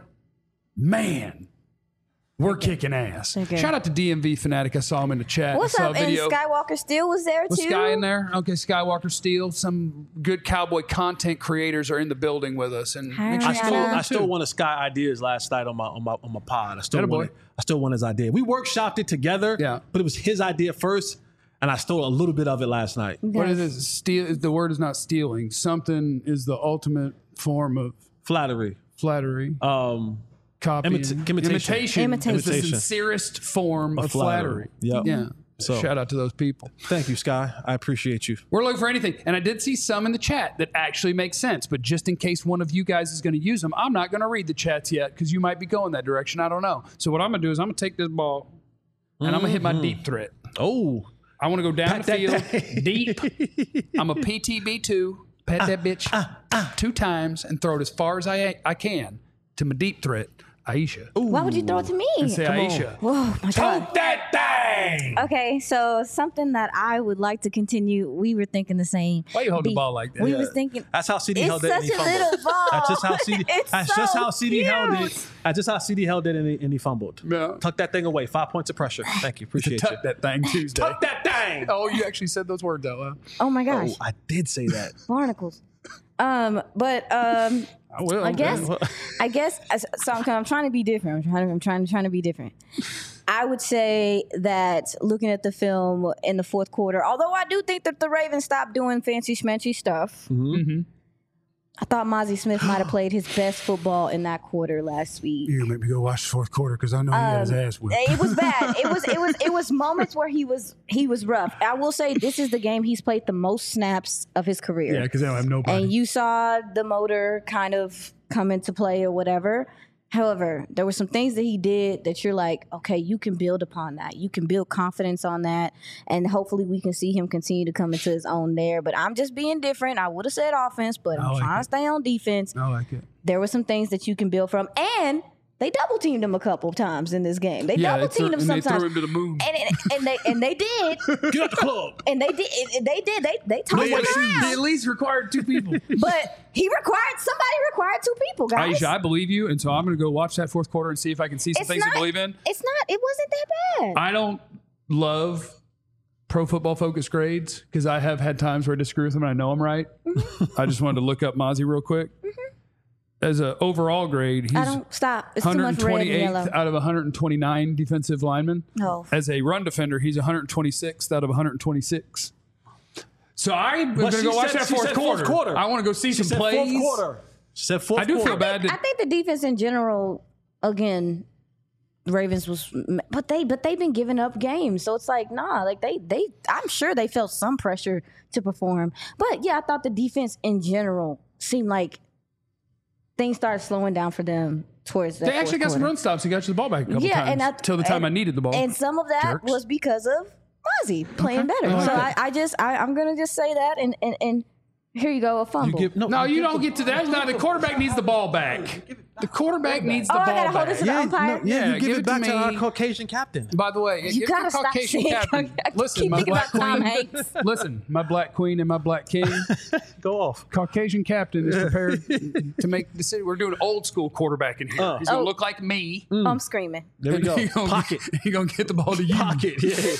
man, we're kicking ass. Okay. Shout out to D M V Fanatic. I saw him in the chat. What's I saw up? a And video. Skywalker Steel was there Was too. Sky in there? Okay, Skywalker Steel. Some good Cowboy content creators are in the building with us, and Hi, make sure I you stole, follow them I stole too. one of Sky ideas last night on my on my on my pod. I stole Atta one. boy. I stole one of his idea. We workshopped it together. Yeah. but it was his idea first, and I stole a little bit of it last night. What is it? Steal. The word is not stealing. Something is the ultimate form of Flattery. flattery. Um, Copying. imita- imitation. Imitation. Imitation. is the Imitation. sincerest form of, Of flattery. flattery. Yep. Yeah. So- Shout out to those people. thank you, Sky. I appreciate you. We're looking for anything. And I did see some in the chat that actually make sense. But just in case one of you guys is going to use them, I'm not going to read the chats yet because you might be going that direction. I don't know. So what I'm going to do is I'm going to take this ball and I'm going to hit my deep threat. Oh, I want to go down Pat the that field thing. deep. I'm a P T B two. Pat that bitch two times and throw it as far as I I can to my deep threat, Aisha. Why would you throw it to me? And say Come on. Aisha. Oh my god. tote that thing. Okay, so something that I would like to continue. We were thinking the same. Why you hold the Be- ball like that? We Yeah. was thinking. That's how C D It's held it. and such he a fumbled. little ball. That's just how C D. It's that's so just how C D held cute. it. That's just how C D held it, and he, and he fumbled. Yeah. Tuck that thing away. Five points of pressure. Thank you. Appreciate you. Tuck that thing Tuesday. Tuck that thing. Oh, you actually said those words out loud. Oh my gosh, Oh, I did say that. barnacles. Um, but um, I will. I guess. I guess. So I'm, I'm trying to be different. I'm trying. To, I'm trying. Trying to be different. I would say that looking at the film in the fourth quarter, although I do think that the Ravens stopped doing fancy schmancy stuff. Mm-hmm. I thought Mozzie Smith might have played his best football in that quarter last week. You make me go watch the fourth quarter because I know he got his ass whipped. It was bad. It was it was it was moments where he was he was rough. I will say this is the game he's played the most snaps of his career. Yeah, because they don't have nobody. And you saw the motor kind of come into play or whatever. However, there were some things that he did that you're like, okay, you can build upon that. You can build confidence on that. And hopefully we can see him continue to come into his own there. But I'm just being different. I would have said offense, but I'm like trying it. to stay on defense. I like it. There were some things that you can build from. And they double teamed him a couple times in this game. They Yeah, double they threw- teamed him and they sometimes. threw him to the moon. And, and, and they and they did. Get out the club. And they did. And they did. They they tossed him He at around. least required two people. But he required somebody required two people, guys. Aisha, I believe you, and so I'm going to go watch that fourth quarter and see if I can see some It's things not- to believe in. It's not. It wasn't that bad. I don't love Pro Football Focus grades because I have had times where I disagree with them and I know I'm right. Mm-hmm. I just wanted to look up Mozzie real quick. As an overall grade, I he's don't stop. It's too much red and yellow. one hundred twenty-eighth out of one hundred twenty-nine defensive linemen. No. As a run defender, he's one hundred twenty-sixth out of one hundred twenty-six. So I'm going But to she go watch said- that she fourth said quarter. fourth quarter. I want to go see She some said plays. fourth quarter. She said fourth I do quarter. feel bad. I That, think the defense in general, again, the Ravens was, but they but they've been giving up games, so it's like nah, like they they I'm sure they felt some pressure to perform, but yeah, I thought the defense in general seemed like things started slowing down for them towards that. they actually got fourth some quarter. run stops and got you the ball back a couple Yeah, times and I- till the time and- I needed the ball. And some of that Jerks. was because of Mozzie playing better. I like so I, that. I just I, I'm gonna just say that, and and and here you go, a You fumble. give, no, no, you give don't the- get to that. No, the quarterback needs the ball back. The quarterback needs the Oh, I ball gotta hold back. this to the Yeah, umpire. no, yeah, Yeah, you give, give it it back to to, our me. Caucasian captain. By the way, You give gotta the stop Caucasian saying- captain. I Listen, keep my thinking black about Tom queen. Hanks. Listen, my black queen and my black king. Go off. Caucasian captain is prepared to make the city. We're doing old school quarterback in here. Uh. He's gonna Oh. look like me. I'm screaming. There we go. He gonna, Pocket. He gonna get the ball to you. Pocket.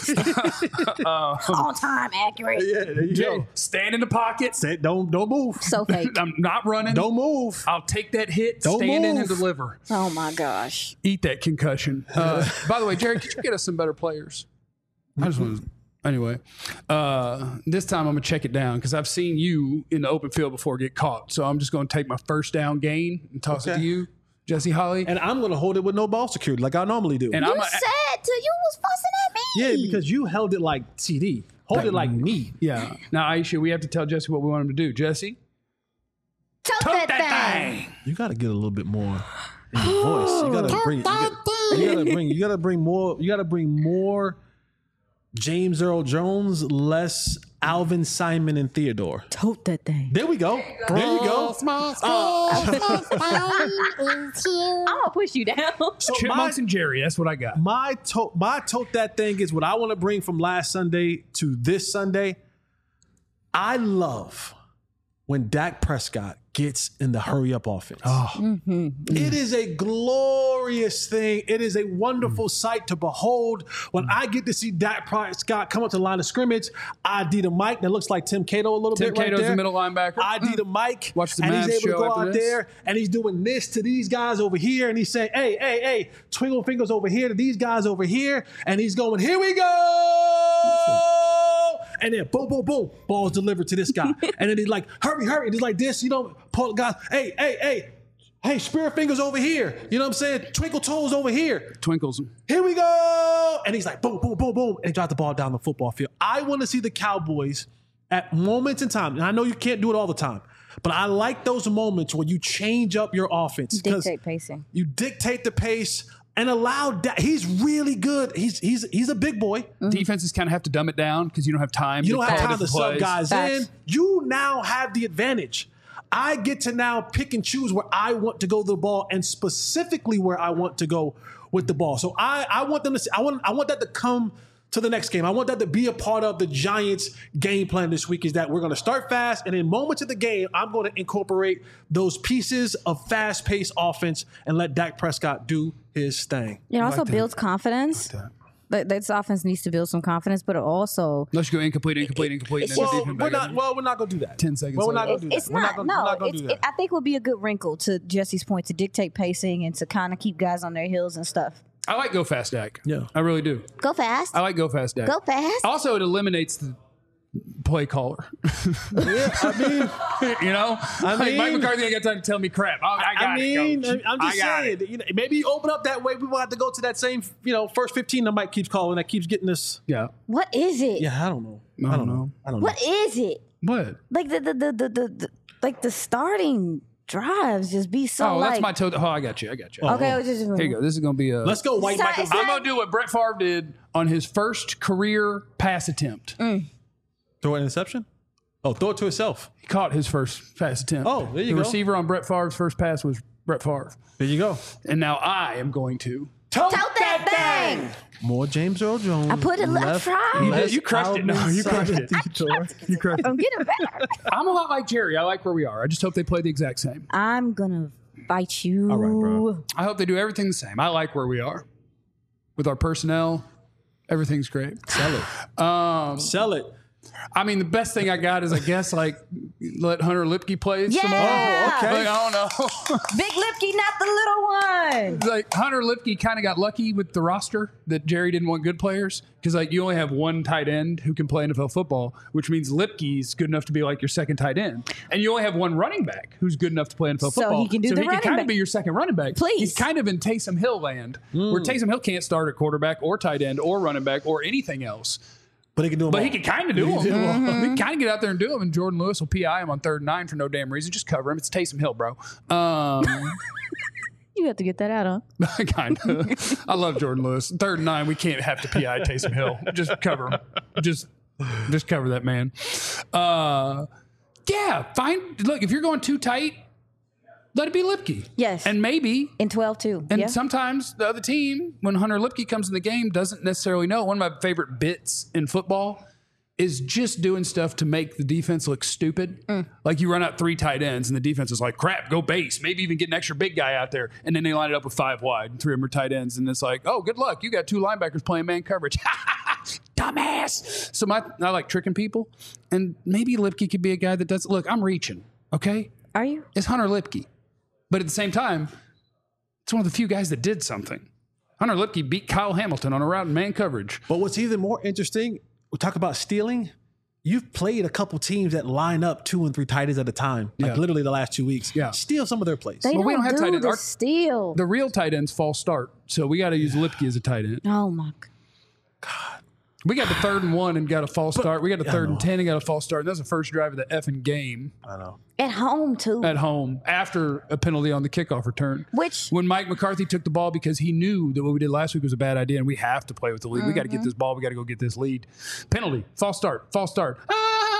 Yeah. On time, accurate. yeah, there you Jay, go. stand in the pocket. Say, don't don't move. So fake. I'm not running. Don't move. I'll take that hit, Don't stand in and move. deliver. Oh my gosh. Eat that concussion. Uh, by the way, Jerry, could you get us some better players? I just want to. Anyway, uh, this time I'm going to check it down because I've seen you in the open field before get caught. So I'm just going to take my first down gain and toss it Okay. to you, Jesse Holly. And I'm going to hold it with no ball security like I normally do. And You I'm a, said to you was fussing at me. yeah, because you held it like C D. Hold it like me. yeah. Now, Aisha, we have to tell Jesse what we want him to do. Jesse, Tote tote that, thing. You got to get a little bit more in your voice. You got to bring. You got to bring. You got to bring more. You got to bring more. James Earl Jones, less Alvin Simon and Theodore. Tote that thing. There we go. There you go. I'm gonna push you down. So my, Chipmunks and Jerry. That's what I got. my to- my tote that thing is what I want to bring from last Sunday to this Sunday. I love when Dak Prescott gets in the hurry up offense. It is a glorious thing. It is a wonderful sight to behold. When I get to see Dak Prescott come up to the line of scrimmage, I D the mic. That looks like Tim Cato a little Tim bit right Cato's there. the middle linebacker. I D the mic. Watch the and Mavs he's able to show go after out this. there and he's doing this to these guys over here. And he's saying, hey, hey, hey, twinkle fingers over here to these guys over here. And he's going, here we go. And then boom, boom, boom, balls delivered to this guy. And then he's like, hurry, hurry. And he's like this, you know, pull guys, hey, hey, hey, hey, spirit fingers over here. You know what I'm saying? Twinkle toes over here. Twinkles. Here we go. And he's like, boom, boom, boom, boom. And he dropped the ball down the football field. I want to see the Cowboys at moments in time. And I know you can't do it all the time, but I like those moments where you change up your offense. 'cause Dictate pacing. You dictate the pace and allow Dak. He's really good. He's he's he's a big boy. Defenses kind of have to dumb it down because you don't have time. You to don't have call time to different sub plays. guys Facts. in. You now have the advantage. I get to now pick and choose where I want to go with the ball and specifically where I want to go with the ball. So I, I want them to see, I want I want that to come to the next game. I want that to be a part of the Giants game plan this week is that we're going to start fast and in moments of the game, I'm going to incorporate those pieces of fast-paced offense and let Dak Prescott do his thing. It also builds confidence Th- This offense needs to build some confidence, but also Let's go incomplete, incomplete, incomplete. And then Well, the defense we're back not. up. Well, we're not gonna do that. Ten seconds Well, we're not later. gonna do that. it's we're not. gonna, no, we're not gonna it's, do that. it, I think would be a good wrinkle to Jesse's point to dictate pacing and to kind of keep guys on their heels and stuff. I like go fast Dak. Yeah. I really do. Go fast. I like go fast Dak. Go fast. Also, it eliminates the play caller. yeah, I mean, you know, I like Mike mean- McCarthy ain't got time to tell me crap. I, I got I mean, it, coach. I'm just I got saying. it. You know, maybe you open up that way. We will have to go to that same, you know, first fifteen that Mike keeps calling. That keeps getting us. Yeah. What is it? Yeah, I don't know. I don't know. I don't know. What is it? What? Like the the the the, the, the like the starting drives just be so Oh, like. that's my toe. Oh, I got you. I got you. Okay, I was just Here you go. This is going to be a. Let's go, White It's not- Michael. it's I'm not- going to do what Brett Favre did on his first career pass attempt. Throw an interception. Oh, throw it to himself. He caught his first pass attempt. Oh, there you the go. receiver on Brett Favre's first pass was Brett Favre. There you go. And now I am going to. Tote that thing. More James Earl Jones. I put it left, right. You, Less did, you crushed it. No, you crushed it. You crushed it. I'm getting better. I'm a lot like Jerry. I like where we are. I just hope they play the exact same. I'm gonna fight you. All right, bro. I hope they do everything the same. I like where we are with our personnel. Everything's great. Sell it. Um, Sell it. I mean, the best thing I got is, I guess, like let Hunter Lipke play some more. Yeah. Oh, okay. Like, I don't know. Big Lipke, not the little one. Like Hunter Lipke kind of got lucky with the roster that Jerry didn't want good players because like you only have one tight end who can play N F L football, which means Lipke's good enough to be like your second tight end, and you only have one running back who's good enough to play N F L So football. he can do so the he can running kind back. of be your second running back. Please. He's kind of in Taysom Hill land, where Taysom Hill can't start at quarterback or tight end or running back or anything else. But he can do them But all. he can kind of do them. He can kind of get out there and do them. And Jordan Lewis will P I him on third and nine for no damn reason. Just cover him. It's Taysom Hill, bro. Um, You have to get that out, huh? kind of. I love Jordan Lewis. Third and nine, we can't have to P I Taysom Hill. Just cover him. Just, just cover that man. Uh, yeah, fine. Look, if you're going too tight, let it be Lipke. Yes. And maybe In twelve too. and yeah. sometimes the other team, when Hunter Lipke comes in the game, doesn't necessarily know. One of my favorite bits in football is just doing stuff to make the defense look stupid. Mm. Like you run out three tight ends and the defense is like, crap, go base. Maybe even get an extra big guy out there. And then they line it up with five wide and three of them are tight ends. And it's like, oh, good luck. You got two linebackers playing man coverage. Dumbass. So my, I like tricking people. And maybe Lipke could be a guy that does. Look, I'm reaching, okay? Are you? It's Hunter Lipke. But at the same time, it's one of the few guys that did something. Hunter Lipke beat Kyle Hamilton on a route in man coverage. But what's even more interesting, we talk about stealing. You've played a couple teams that line up two and three tight ends at a time, like Yeah. literally the last two weeks. Yeah. Steal some of their plays. They Well, don't, we don't have do tight ends. the Our- steal. The real tight ends false start. So we got to use Lipke as a tight end. oh my God. We got the third and one and got a false start. We got the I third and know. ten and got a false start. And that was the first drive of the effing game I know. At home too. at home after a penalty on the kickoff return. Which When Mike McCarthy took the ball because he knew that what we did last week was a bad idea and we have to play with the lead. We got to Mm-hmm. get this ball. We got to go get this lead. Penalty, false start, false start. Ah!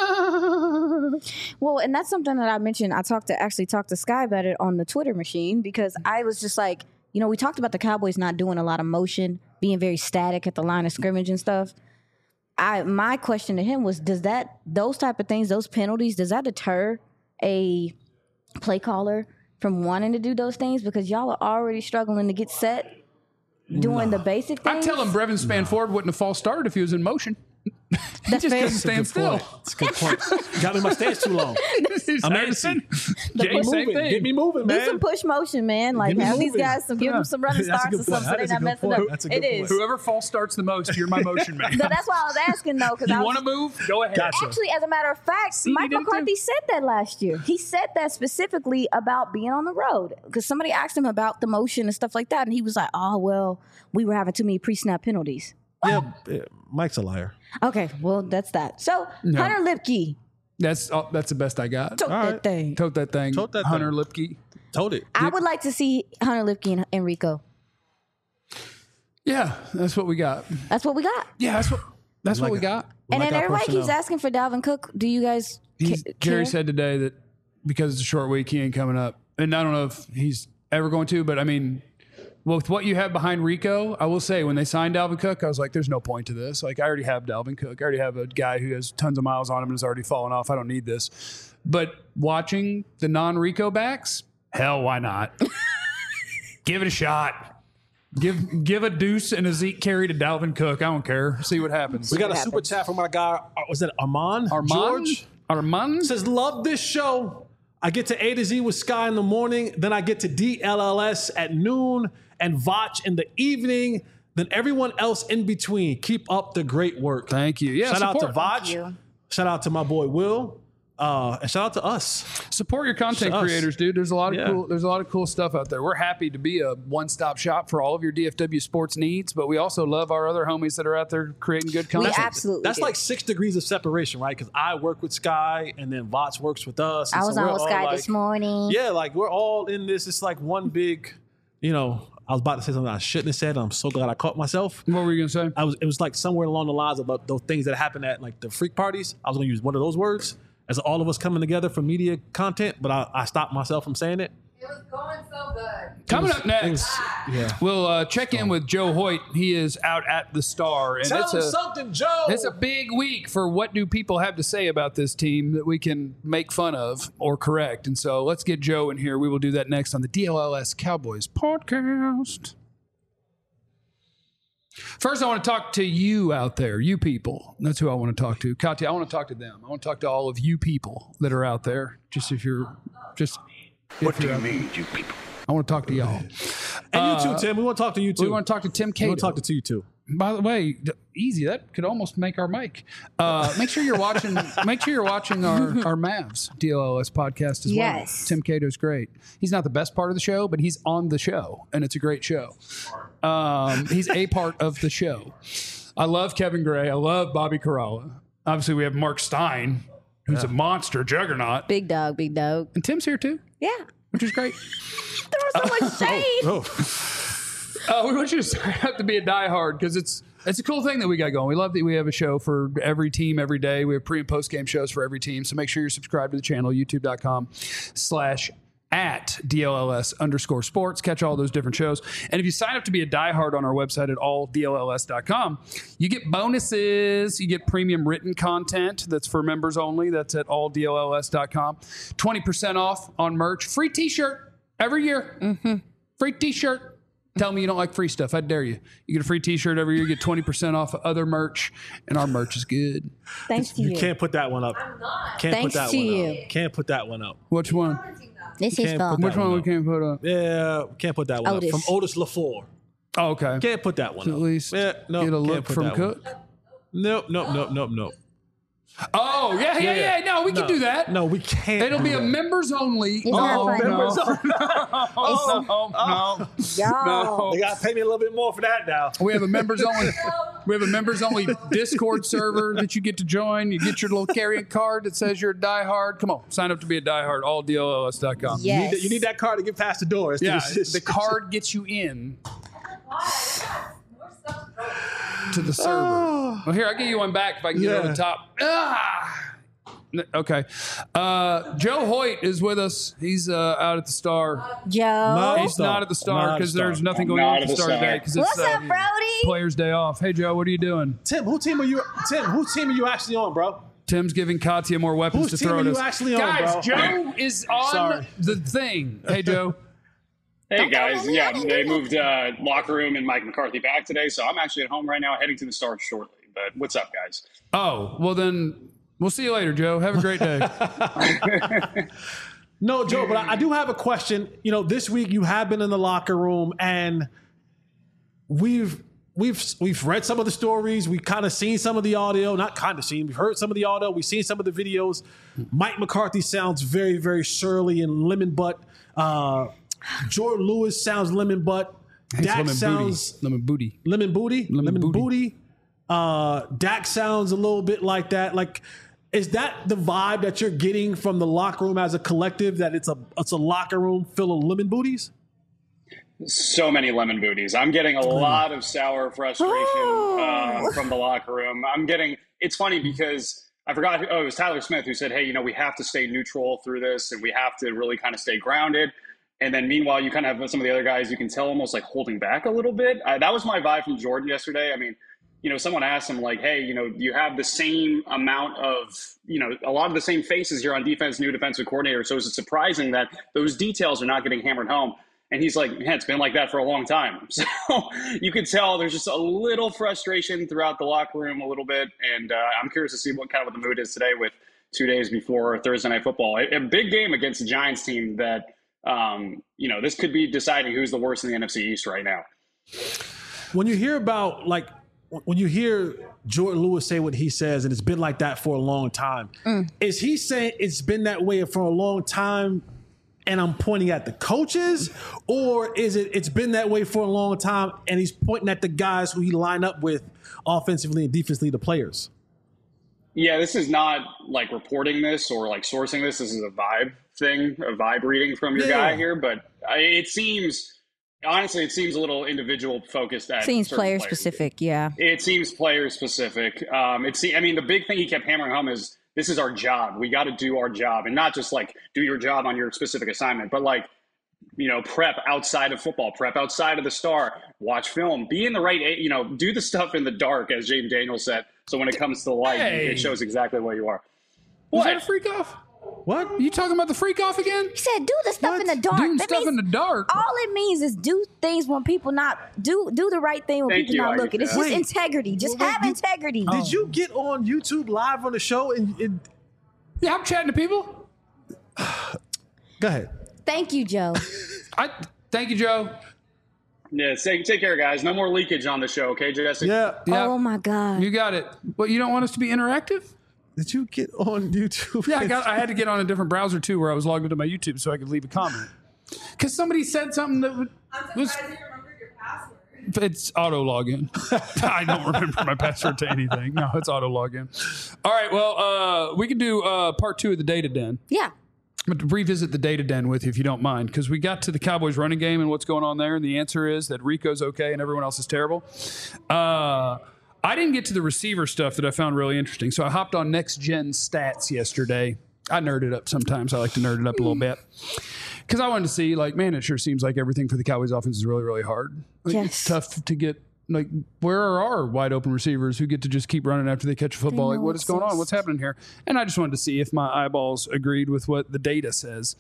Well, and that's something that I mentioned. I talked to actually talked to Sky about it on the Twitter machine because I was just like, you know, we talked about the Cowboys not doing a lot of motion, being very static at the line of scrimmage and stuff. I my question to him was, does that those type of things, those penalties, does that deter a play caller from wanting to do those things because y'all are already struggling to get set doing the basic I things? tell him Brevin Spanford wouldn't have false started if he was in motion. he That's just fair. couldn't stand still. That's a good point. Got me in my stance too long. I'm Anderson. antsy. Jay, same Moving. thing. Get me moving, Do man. some push motion, man. Like Give me have these moving. guys some give them some running That's a starts good or something point. so That they're is a not good messing point. up. That's a It good is. point. Whoever false starts the most, you're my motion man. So that's why I was asking though, because I You was want to move? Go ahead. Gotcha. actually, as a matter of fact, you Mike did it McCarthy too. said that last year. He said that specifically about being on the road because somebody asked him about the motion and stuff like that, and he was like, "Oh well, we were having too many pre-snap penalties." Yeah, yeah, Mike's a liar. Okay, well that's that. So No. Hunter Lipke, That's oh, that's the best I got. took All that right. thing. Tote that thing. Tote that Hunter thing. Lipke. Told it. I would like to see Hunter Lipke and Enrico. Yeah, that's what we got. That's what we got. Yeah, that's what that's Like what we it. got. And like then our everybody keeps personnel. asking for Dalvin Cook. Do you guys He's, ca- Jerry care? said today that because it's a short week, he ain't coming up. And I don't know if he's ever going to, but I mean, with what you have behind Rico, I will say when they signed Dalvin Cook, I was like, there's no point to this. Like, I already have Dalvin Cook. I already have a guy who has tons of miles on him and has already fallen off. I don't need this. But watching the non-Rico backs, hell, why not? Give it a shot. Give give a deuce and a Zeke carry to Dalvin Cook. I don't care. See what happens. We got a what super happens. chat from our guy. uh, Was that Armand? Armand? George Armand? says, love this show. I get to A to Z with Sky in the morning. Then I get to D L L S at noon and Vach in the evening. Then everyone else in between. Keep up the great work. Thank you. Yeah, Shout out to support. Vach. you. Shout out to my boy Will. Uh, and shout out to us. Support your content Us. creators, dude. There's a lot of Yeah. cool. There's a lot of cool stuff out there. We're happy to be a one-stop shop for all of your D F W sports needs, but we also love our other homies that are out there creating good We content. absolutely That's do. like six degrees of separation, right? Because I work with Sky and then Vach works with us. and I so was we're on with all Sky like- this morning. Yeah, like we're all in this. It's like one big, you know, I was about to say something I shouldn't have said. I'm so glad I caught myself. What were you gonna say? I was it was like somewhere along the lines about those things that happen at like the freak parties. I was gonna use one of those words as all of us coming together for media content, but I, I stopped myself from saying it. It was going so good. Coming up It next, was- yeah. we'll uh, check in with Joe Hoyt. He is out at the Star, and Tell it's him a something, Joe. it's a big week for what do people have to say about this team that we can make fun of or correct. And so let's get Joe in here. We will do that next on the D L L S Cowboys podcast. First, I want to talk to you out there, you people. That's who I want to talk to. Katya, I want to talk to them. I want to talk to all of you people that are out there. Just if you're, just. What if do you're you out- mean, you people? I want to talk to y'all. and you too, Tim. We want to talk to you too. We want to talk to Tim We Cato. want to talk to you too. By the way, d- easy. That could almost make our mic. Uh, make sure you're watching. Make sure you're watching our our Mavs D L L S podcast as Yes. well. Tim Cato's great. He's not the best part of the show, but he's on the show, and it's a great show. Um, he's a part of the show. I love Kevin Gray. I love Bobby Caralla. Obviously, we have Mark Stein, who's a monster juggernaut, Big dog, big dog. and Tim's here too, Yeah. which is great. There was so much shade. Oh, Uh, we want you to sign up to be a diehard because it's it's a cool thing that we got going. We love that we have a show for every team every day. We have pre and post game shows for every team. So make sure you're subscribed to the channel, youtube.com slash at DLLS underscore sports. Catch all those different shows. And if you sign up to be a diehard on our website at all D L L S dot com, you get bonuses. You get premium written content that's for members only. That's at all D L L S dot com. twenty percent off on merch. Free t-shirt every year. Mm-hmm. Free t-shirt. Tell me you don't like free stuff. I dare you. You get a free t-shirt every year. You get twenty percent off of other merch. And our merch is good. Thanks to you you. can't put that one up. I'm not. Can't Thanks put that to one you. up. Can't put that one up. Which one? It's his can't fault. put Which that one one we up. can't put up? Yeah, can't put that one Otis. up. From Otis LaFleur. Oh, okay. Can't put that one At up. least yeah, no, get a can't look put from that one. Cook. Nope, nope, nope, nope, nope. Oh, yeah, yeah, yeah. No, we can do that. No, we can't. It'll do be a that. members only. It's not Oh, funny. no. Members only. Oh, no, Y'all. They gotta pay me a little bit more for that now. We have a members only. We have a members only Discord server that you get to join. You get your little carrying card that says you're a diehard. Come on, sign up to be a diehard. all D L L S dot com. You need, Yes. you need that card to get past the door. It's Yeah, it's- the card gets you in More stuff to go. to the server. Well, here, I'll give you one back if I can get it over Yeah. the top. Ah! N- Okay. Uh, Joe Hoyt is with us. He's uh, out at the Star. Joe. No. He's not at the Star Not at the because there's Star. nothing I'm going not on at at the the Star Star. today because it's What's uh, up, Brody? Players' Day off. Hey, Joe, what are you doing? Tim, who team are you? Tim, whose team are you actually on, bro? Tim's giving Katya more weapons Whose to team throw are at you us. actually on, Guys, bro? Joe is on Sorry. the thing. Hey, Joe. Hey guys, yeah, they moved uh, locker room and Mike McCarthy back today, so I'm actually at home right now, heading to the Stars shortly. But what's up, guys? Oh, well then, we'll see you later, Joe. Have a great day. No, Joe, but I, I do have a question. You know, this week you have been in the locker room, and we've we've we've read some of the stories. We've kind of seen some of the audio. Not kind of seen. We've heard some of the audio. We've seen some of the videos. Mike McCarthy sounds very, very surly and lemon butt. Uh, Jordan Lewis sounds lemon butt. It's Dak lemon sounds booty. Lemon booty. lemon booty. Lemon Lemon, booty. booty. Uh, Dak sounds a little bit like that. Like, is that the vibe that you're getting from the locker room as a collective? That it's a it's a locker room full of lemon booties? So many lemon booties. I'm getting a lot of sour frustration Oh. uh, from the locker room. I'm getting. It's funny because I forgot. Who, oh, it was Tyler Smith who said, "Hey, you know, we have to stay neutral through this, and we have to really kind of stay grounded." And then meanwhile, you kind of have some of the other guys. You can tell almost like holding back a little bit. Uh, that was my vibe from Jordan yesterday. I mean, you know, someone asked him like, "Hey, you know, you have the same amount of, you know, a lot of the same faces here on defense, new defensive coordinator. So is it surprising that those details are not getting hammered home?" And he's like, man, it's been like that for a long time. So you could tell there's just a little frustration throughout the locker room a little bit. And uh, I'm curious to see what kind of what the mood is today with two days before Thursday Night Football. A, a big game against the Giants team that, um, you know, this could be deciding who's the worst in the N F C East right now. When you hear about, like, when you hear Jordan Lewis say what he says, and it's been like that for a long time, mm. is he saying it's been that way for a long time and I'm pointing at the coaches, or is it it's been that way for a long time and he's pointing at the guys who he line up with offensively and defensively, the players? Yeah, this is not like reporting this or like sourcing this. This is a vibe thing, a vibe reading from your yeah. guy here. But I, it seems, honestly, it seems a little individual focused. At seems player players. specific, yeah. It seems player specific. Um, it's, I mean, the big thing he kept hammering home is, this is our job. We got to do our job, and not just like do your job on your specific assignment, but like, you know, prep outside of football, prep outside of the star, watch film, be in the right, you know, do the stuff in the dark, as Jaden Daniels said. So when it comes to the light, hey. it shows exactly what you are. Was what? that a freak off? What? Are you talking about the freak off again? He said, do the stuff what? in the dark. Doing that stuff in the dark. All it means is do things when people not do do the right thing when Thank people you, not looking. It's just wait, integrity. Just wait, have you, integrity. Did oh. you get on YouTube live on the show and? and yeah, I'm chatting to people. Go ahead. Thank you, Joe. I thank you, Joe. Yeah, take, take care, guys. No more leakage on the show, okay, Jesse? Yeah. yeah. Oh, my God. You got it. Well, you don't want us to be interactive? Did you get on YouTube? Yeah, I, got, I had to get on a different browser, too, where I was logged into my YouTube so I could leave a comment. Because somebody said something that would, I'm was... surprised you remembered your password. It's auto login. I don't remember my password to anything. No, it's auto login. All right, well, uh, we can do uh, part two of the Data Den. Yeah. I'm going to revisit the Data Den with you, if you don't mind, because we got to the Cowboys running game and what's going on there, and the answer is that Rico's okay and everyone else is terrible. Uh, I didn't get to the receiver stuff that I found really interesting, so I hopped on Next Gen Stats yesterday. I nerd it up sometimes. I like to nerd it up a little bit. Because I wanted to see, like, man, it sure seems like everything for the Cowboys offense is really, really hard. Like, yes. It's tough to get, like, where are our wide open receivers who get to just keep running after they catch a football? Like, what is going on? What's happening here? And I just wanted to see if my eyeballs agreed with what the data says.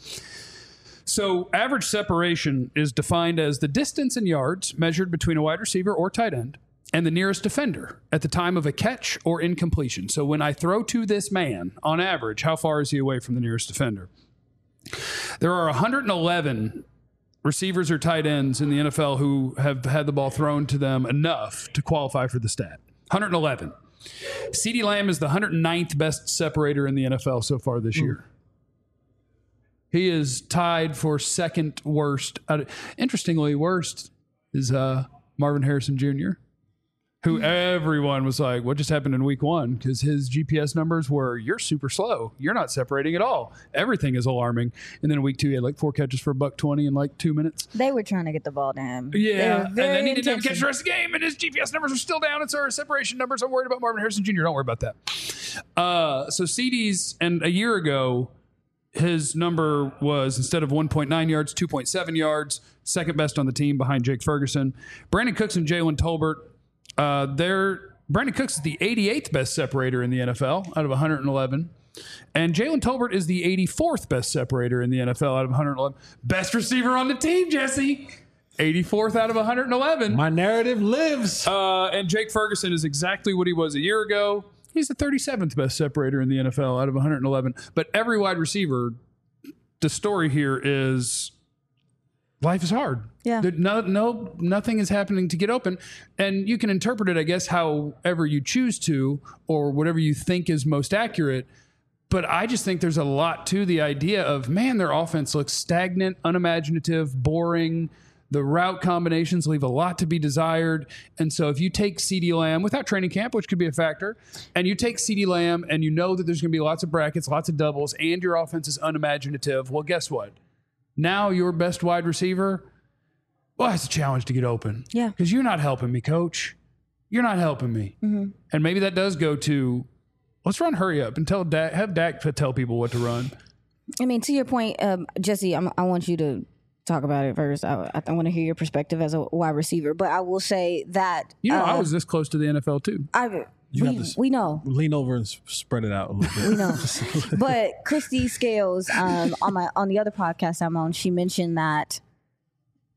So average separation is defined as the distance in yards measured between a wide receiver or tight end and the nearest defender at the time of a catch or incompletion. So when I throw to this man, on average, how far is he away from the nearest defender? There are one hundred eleven receivers or tight ends in the N F L who have had the ball thrown to them enough to qualify for the stat. one hundred eleven. CeeDee Lamb is the one hundred ninth best separator in the N F L so far this year. He is tied for second worst. Interestingly, worst is uh, Marvin Harrison Junior, who everyone was like, what just happened in week one? Because his G P S numbers were, you're super slow. You're not separating at all. Everything is alarming. And then in week two, he had like four catches for a buck twenty in like two minutes. They were trying to get the ball to him. Yeah. And then he didn't have a catch the rest of the game, and his G P S numbers are still down. And so our separation numbers, I'm worried about Marvin Harrison Junior Don't worry about that. Uh, so C D's, and a year ago, his number was, instead of one point nine yards, two point seven yards, second best on the team behind Jake Ferguson. Brandon Cooks and Jalen Tolbert, Uh, they're Brandon Cooks is the eighty-eighth best separator in the N F L out of one hundred eleven. And Jalen Tolbert is the eighty-fourth best separator in the N F L out of one hundred eleven. Best receiver on the team, Jesse. eighty-fourth out of one hundred eleven. My narrative lives. Uh, and Jake Ferguson is exactly what he was a year ago. He's the thirty-seventh best separator in the N F L out of one hundred eleven. But every wide receiver, the story here is life is hard. Yeah. No, no, nothing is happening to get open. And you can interpret it, I guess, however you choose to, or whatever you think is most accurate. But I just think there's a lot to the idea of, man, their offense looks stagnant, unimaginative, boring. The route combinations leave a lot to be desired. And so if you take CeeDee Lamb without training camp, which could be a factor, and you take CeeDee Lamb and you know that there's going to be lots of brackets, lots of doubles, and your offense is unimaginative, well, guess what? Now your best wide receiver, well, it's a challenge to get open. Yeah. Because you're not helping me, coach. You're not helping me. Mm-hmm. And maybe that does go to, let's run hurry up and tell Dak, have Dak tell people what to run. I mean, to your point, um, Jesse, I'm, I want you to talk about it first. I, I want to hear your perspective as a wide receiver. But I will say that. You know, uh, I was this close to the N F L too. I You we, have to we know. Lean over and spread it out a little bit. We know. But Christy Scales, um, on my on the other podcast I'm on, she mentioned that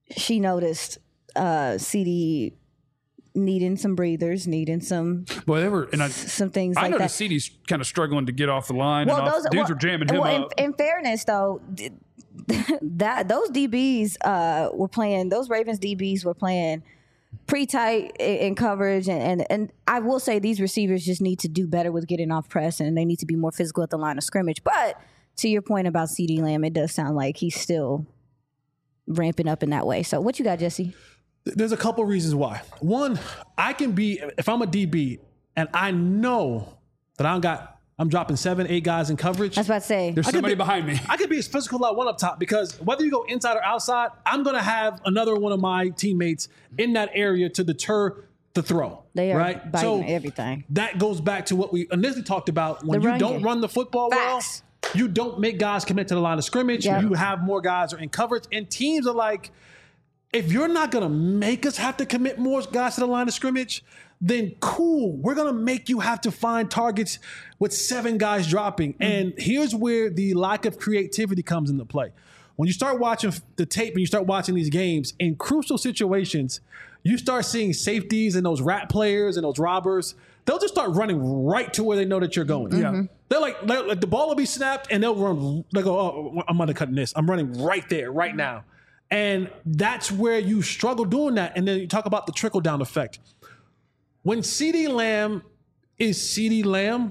she noticed uh, C D needing some breathers, needing some Boy, they were, and I, some things I like noticed that. C D's kind of struggling to get off the line. and off, dudes well, were jamming him well, up. In, in fairness, though, d- that those D Bs uh, were playing. Those Ravens D Bs were playing pretty tight in, in coverage, and, and and I will say these receivers just need to do better with getting off press, and they need to be more physical at the line of scrimmage. But to your point about CeeDee Lamb, it does sound like he's still ramping up in that way. So, what you got, Jesse? There's a couple reasons why. One, I can be, if I'm a D B and I know that I got, I'm dropping seven, eight guys in coverage. I was about to say. There's I could somebody be- behind me. I could be as physical as I want up top because whether you go inside or outside, I'm going to have another one of my teammates in that area to deter the throw. They are right? biting So everything. That goes back to what we initially talked about. When The you run don't game. run the football Facts. well, you don't make guys commit to the line of scrimmage. Yep. You have more guys are in coverage. And teams are like, if you're not going to make us have to commit more guys to the line of scrimmage, then cool. We're going to make you have to find targets with seven guys dropping. Mm-hmm. And here's where the lack of creativity comes into play. When you start watching the tape and you start watching these games, in crucial situations, you start seeing safeties and those rat players and those robbers. They'll just start running right to where they know that you're going. Yeah. They're like, they're like the ball will be snapped and they'll run. They go, oh, I'm undercutting this. I'm running right there, right now. And that's where you struggle doing that. And then you talk about the trickle down effect. When CeeDee Lamb is CeeDee Lamb,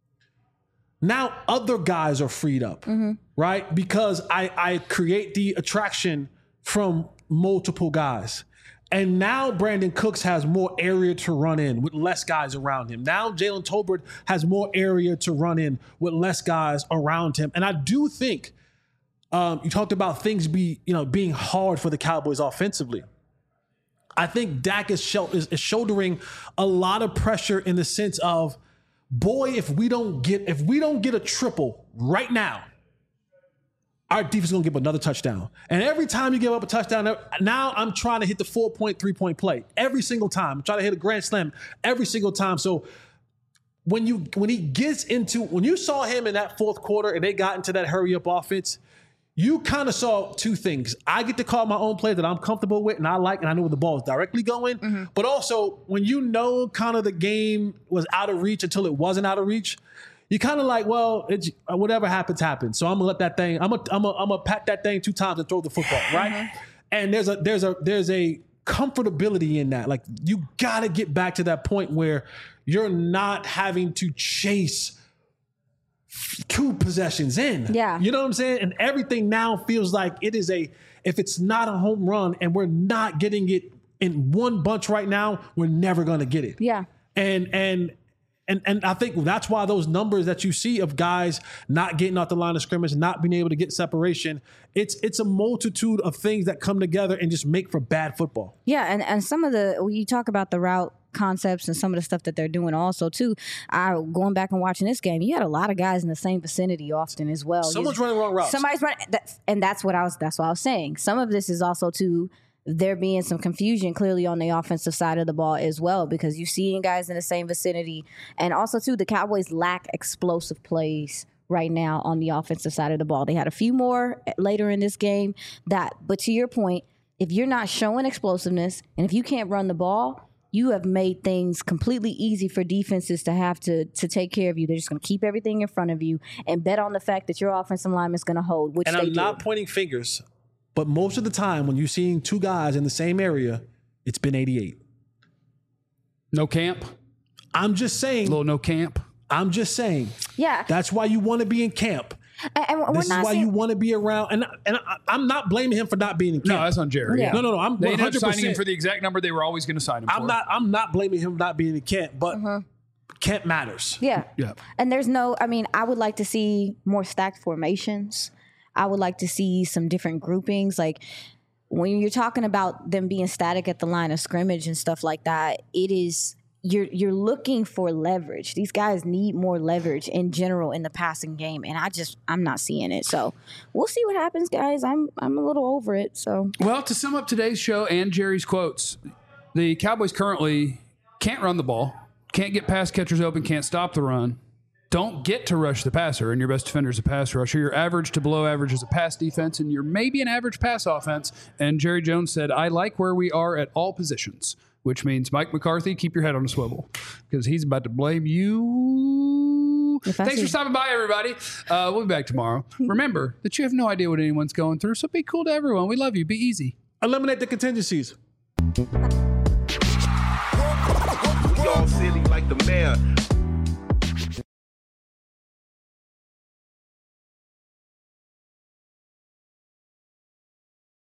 now other guys are freed up, right? Because I, I create the attraction from multiple guys. And now Brandon Cooks has more area to run in with less guys around him. Now Jalen Tolbert has more area to run in with less guys around him. And I do think um, you talked about things be you know being hard for the Cowboys offensively. I think Dak is, shel- is, is shouldering a lot of pressure in the sense of, boy, if we don't get if we don't get a triple right now, our defense is going to give another touchdown. And every time you give up a touchdown, now I'm trying to hit the four-point, three-point play. Every single time. I'm trying to hit a grand slam every single time. So when you when he gets into, when you saw him in that fourth quarter and they got into that hurry-up offense, you kind of saw two things. I get to call my own play that I'm comfortable with and I like, and I know where the ball is directly going. Mm-hmm. But also, when you know kind of the game was out of reach until it wasn't out of reach, you kind of like, well, it's, whatever happens, happens. So I'm gonna let that thing. I'm gonna, I'm gonna, I'm gonna pat that thing two times and throw the football, right? Mm-hmm. And there's a, there's a, there's a comfortability in that. Like you got to get back to that point where you're not having to chase two possessions in. Yeah. You know what I'm saying? And everything now feels like it is a, if it's not a home run and we're not getting it in one bunch right now, we're never going to get it. Yeah. And, and, and, and I think that's why those numbers that you see of guys not getting off the line of scrimmage, not being able to get separation, it's, it's a multitude of things that come together and just make for bad football. Yeah. And, and some of the, when you talk about the route concepts and some of the stuff that they're doing also too, I going back and watching this game, you had a lot of guys in the same vicinity often as well. Someone's you, running wrong routes. Somebody's running, that's, and that's what I was, that's what I was saying. Some of this is also too, there being some confusion clearly on the offensive side of the ball as well, because you're seeing guys in the same vicinity. And also too, the Cowboys lack explosive plays right now on the offensive side of the ball. They had a few more later in this game that, but to your point, if you're not showing explosiveness and if you can't run the ball, you have made things completely easy for defenses to have to to take care of you. They're just going to keep everything in front of you and bet on the fact that your offensive lineman is going to hold, which and they I'm do. not pointing fingers, but most of the time when you're seeing two guys in the same area, it's been eighty-eight. No camp? I'm just saying. A little no camp? I'm just saying. Yeah. That's why you want to be in camp. And, and we're This is not why saying, you want to be around. And and I, I'm not blaming him for not being in camp. No, that's on Jerry. Yeah. No, no, no. I'm They one ended up hundred signing him percent. for the exact number they were always going to sign him I'm for. not. I'm not blaming him not being in camp, but camp matters. yeah. Yeah. And there's no, I mean, I would like to see more stacked formations. I would like to see some different groupings. Like when you're talking about them being static at the line of scrimmage and stuff like that, it is, you're you're looking for leverage. These guys need more leverage in general in the passing game, and I just I'm not seeing it. So we'll see what happens, guys. I'm I'm a little over it. So Well, to sum up today's show and Jerry's quotes, the Cowboys currently can't run the ball, can't get pass catchers open, can't stop the run, don't get to rush the passer, and your best defender is a pass rusher. You're average to below average as a pass defense, and you're maybe an average pass offense. And Jerry Jones said, I like where we are at all positions, which means Mike McCarthy, keep your head on a swivel because he's about to blame you. Thanks see- for stopping by, everybody. Uh, we'll be back tomorrow. Remember that you have no idea what anyone's going through, so be cool to everyone. We love you. Be easy. Eliminate the contingencies. We all silly like the mayor.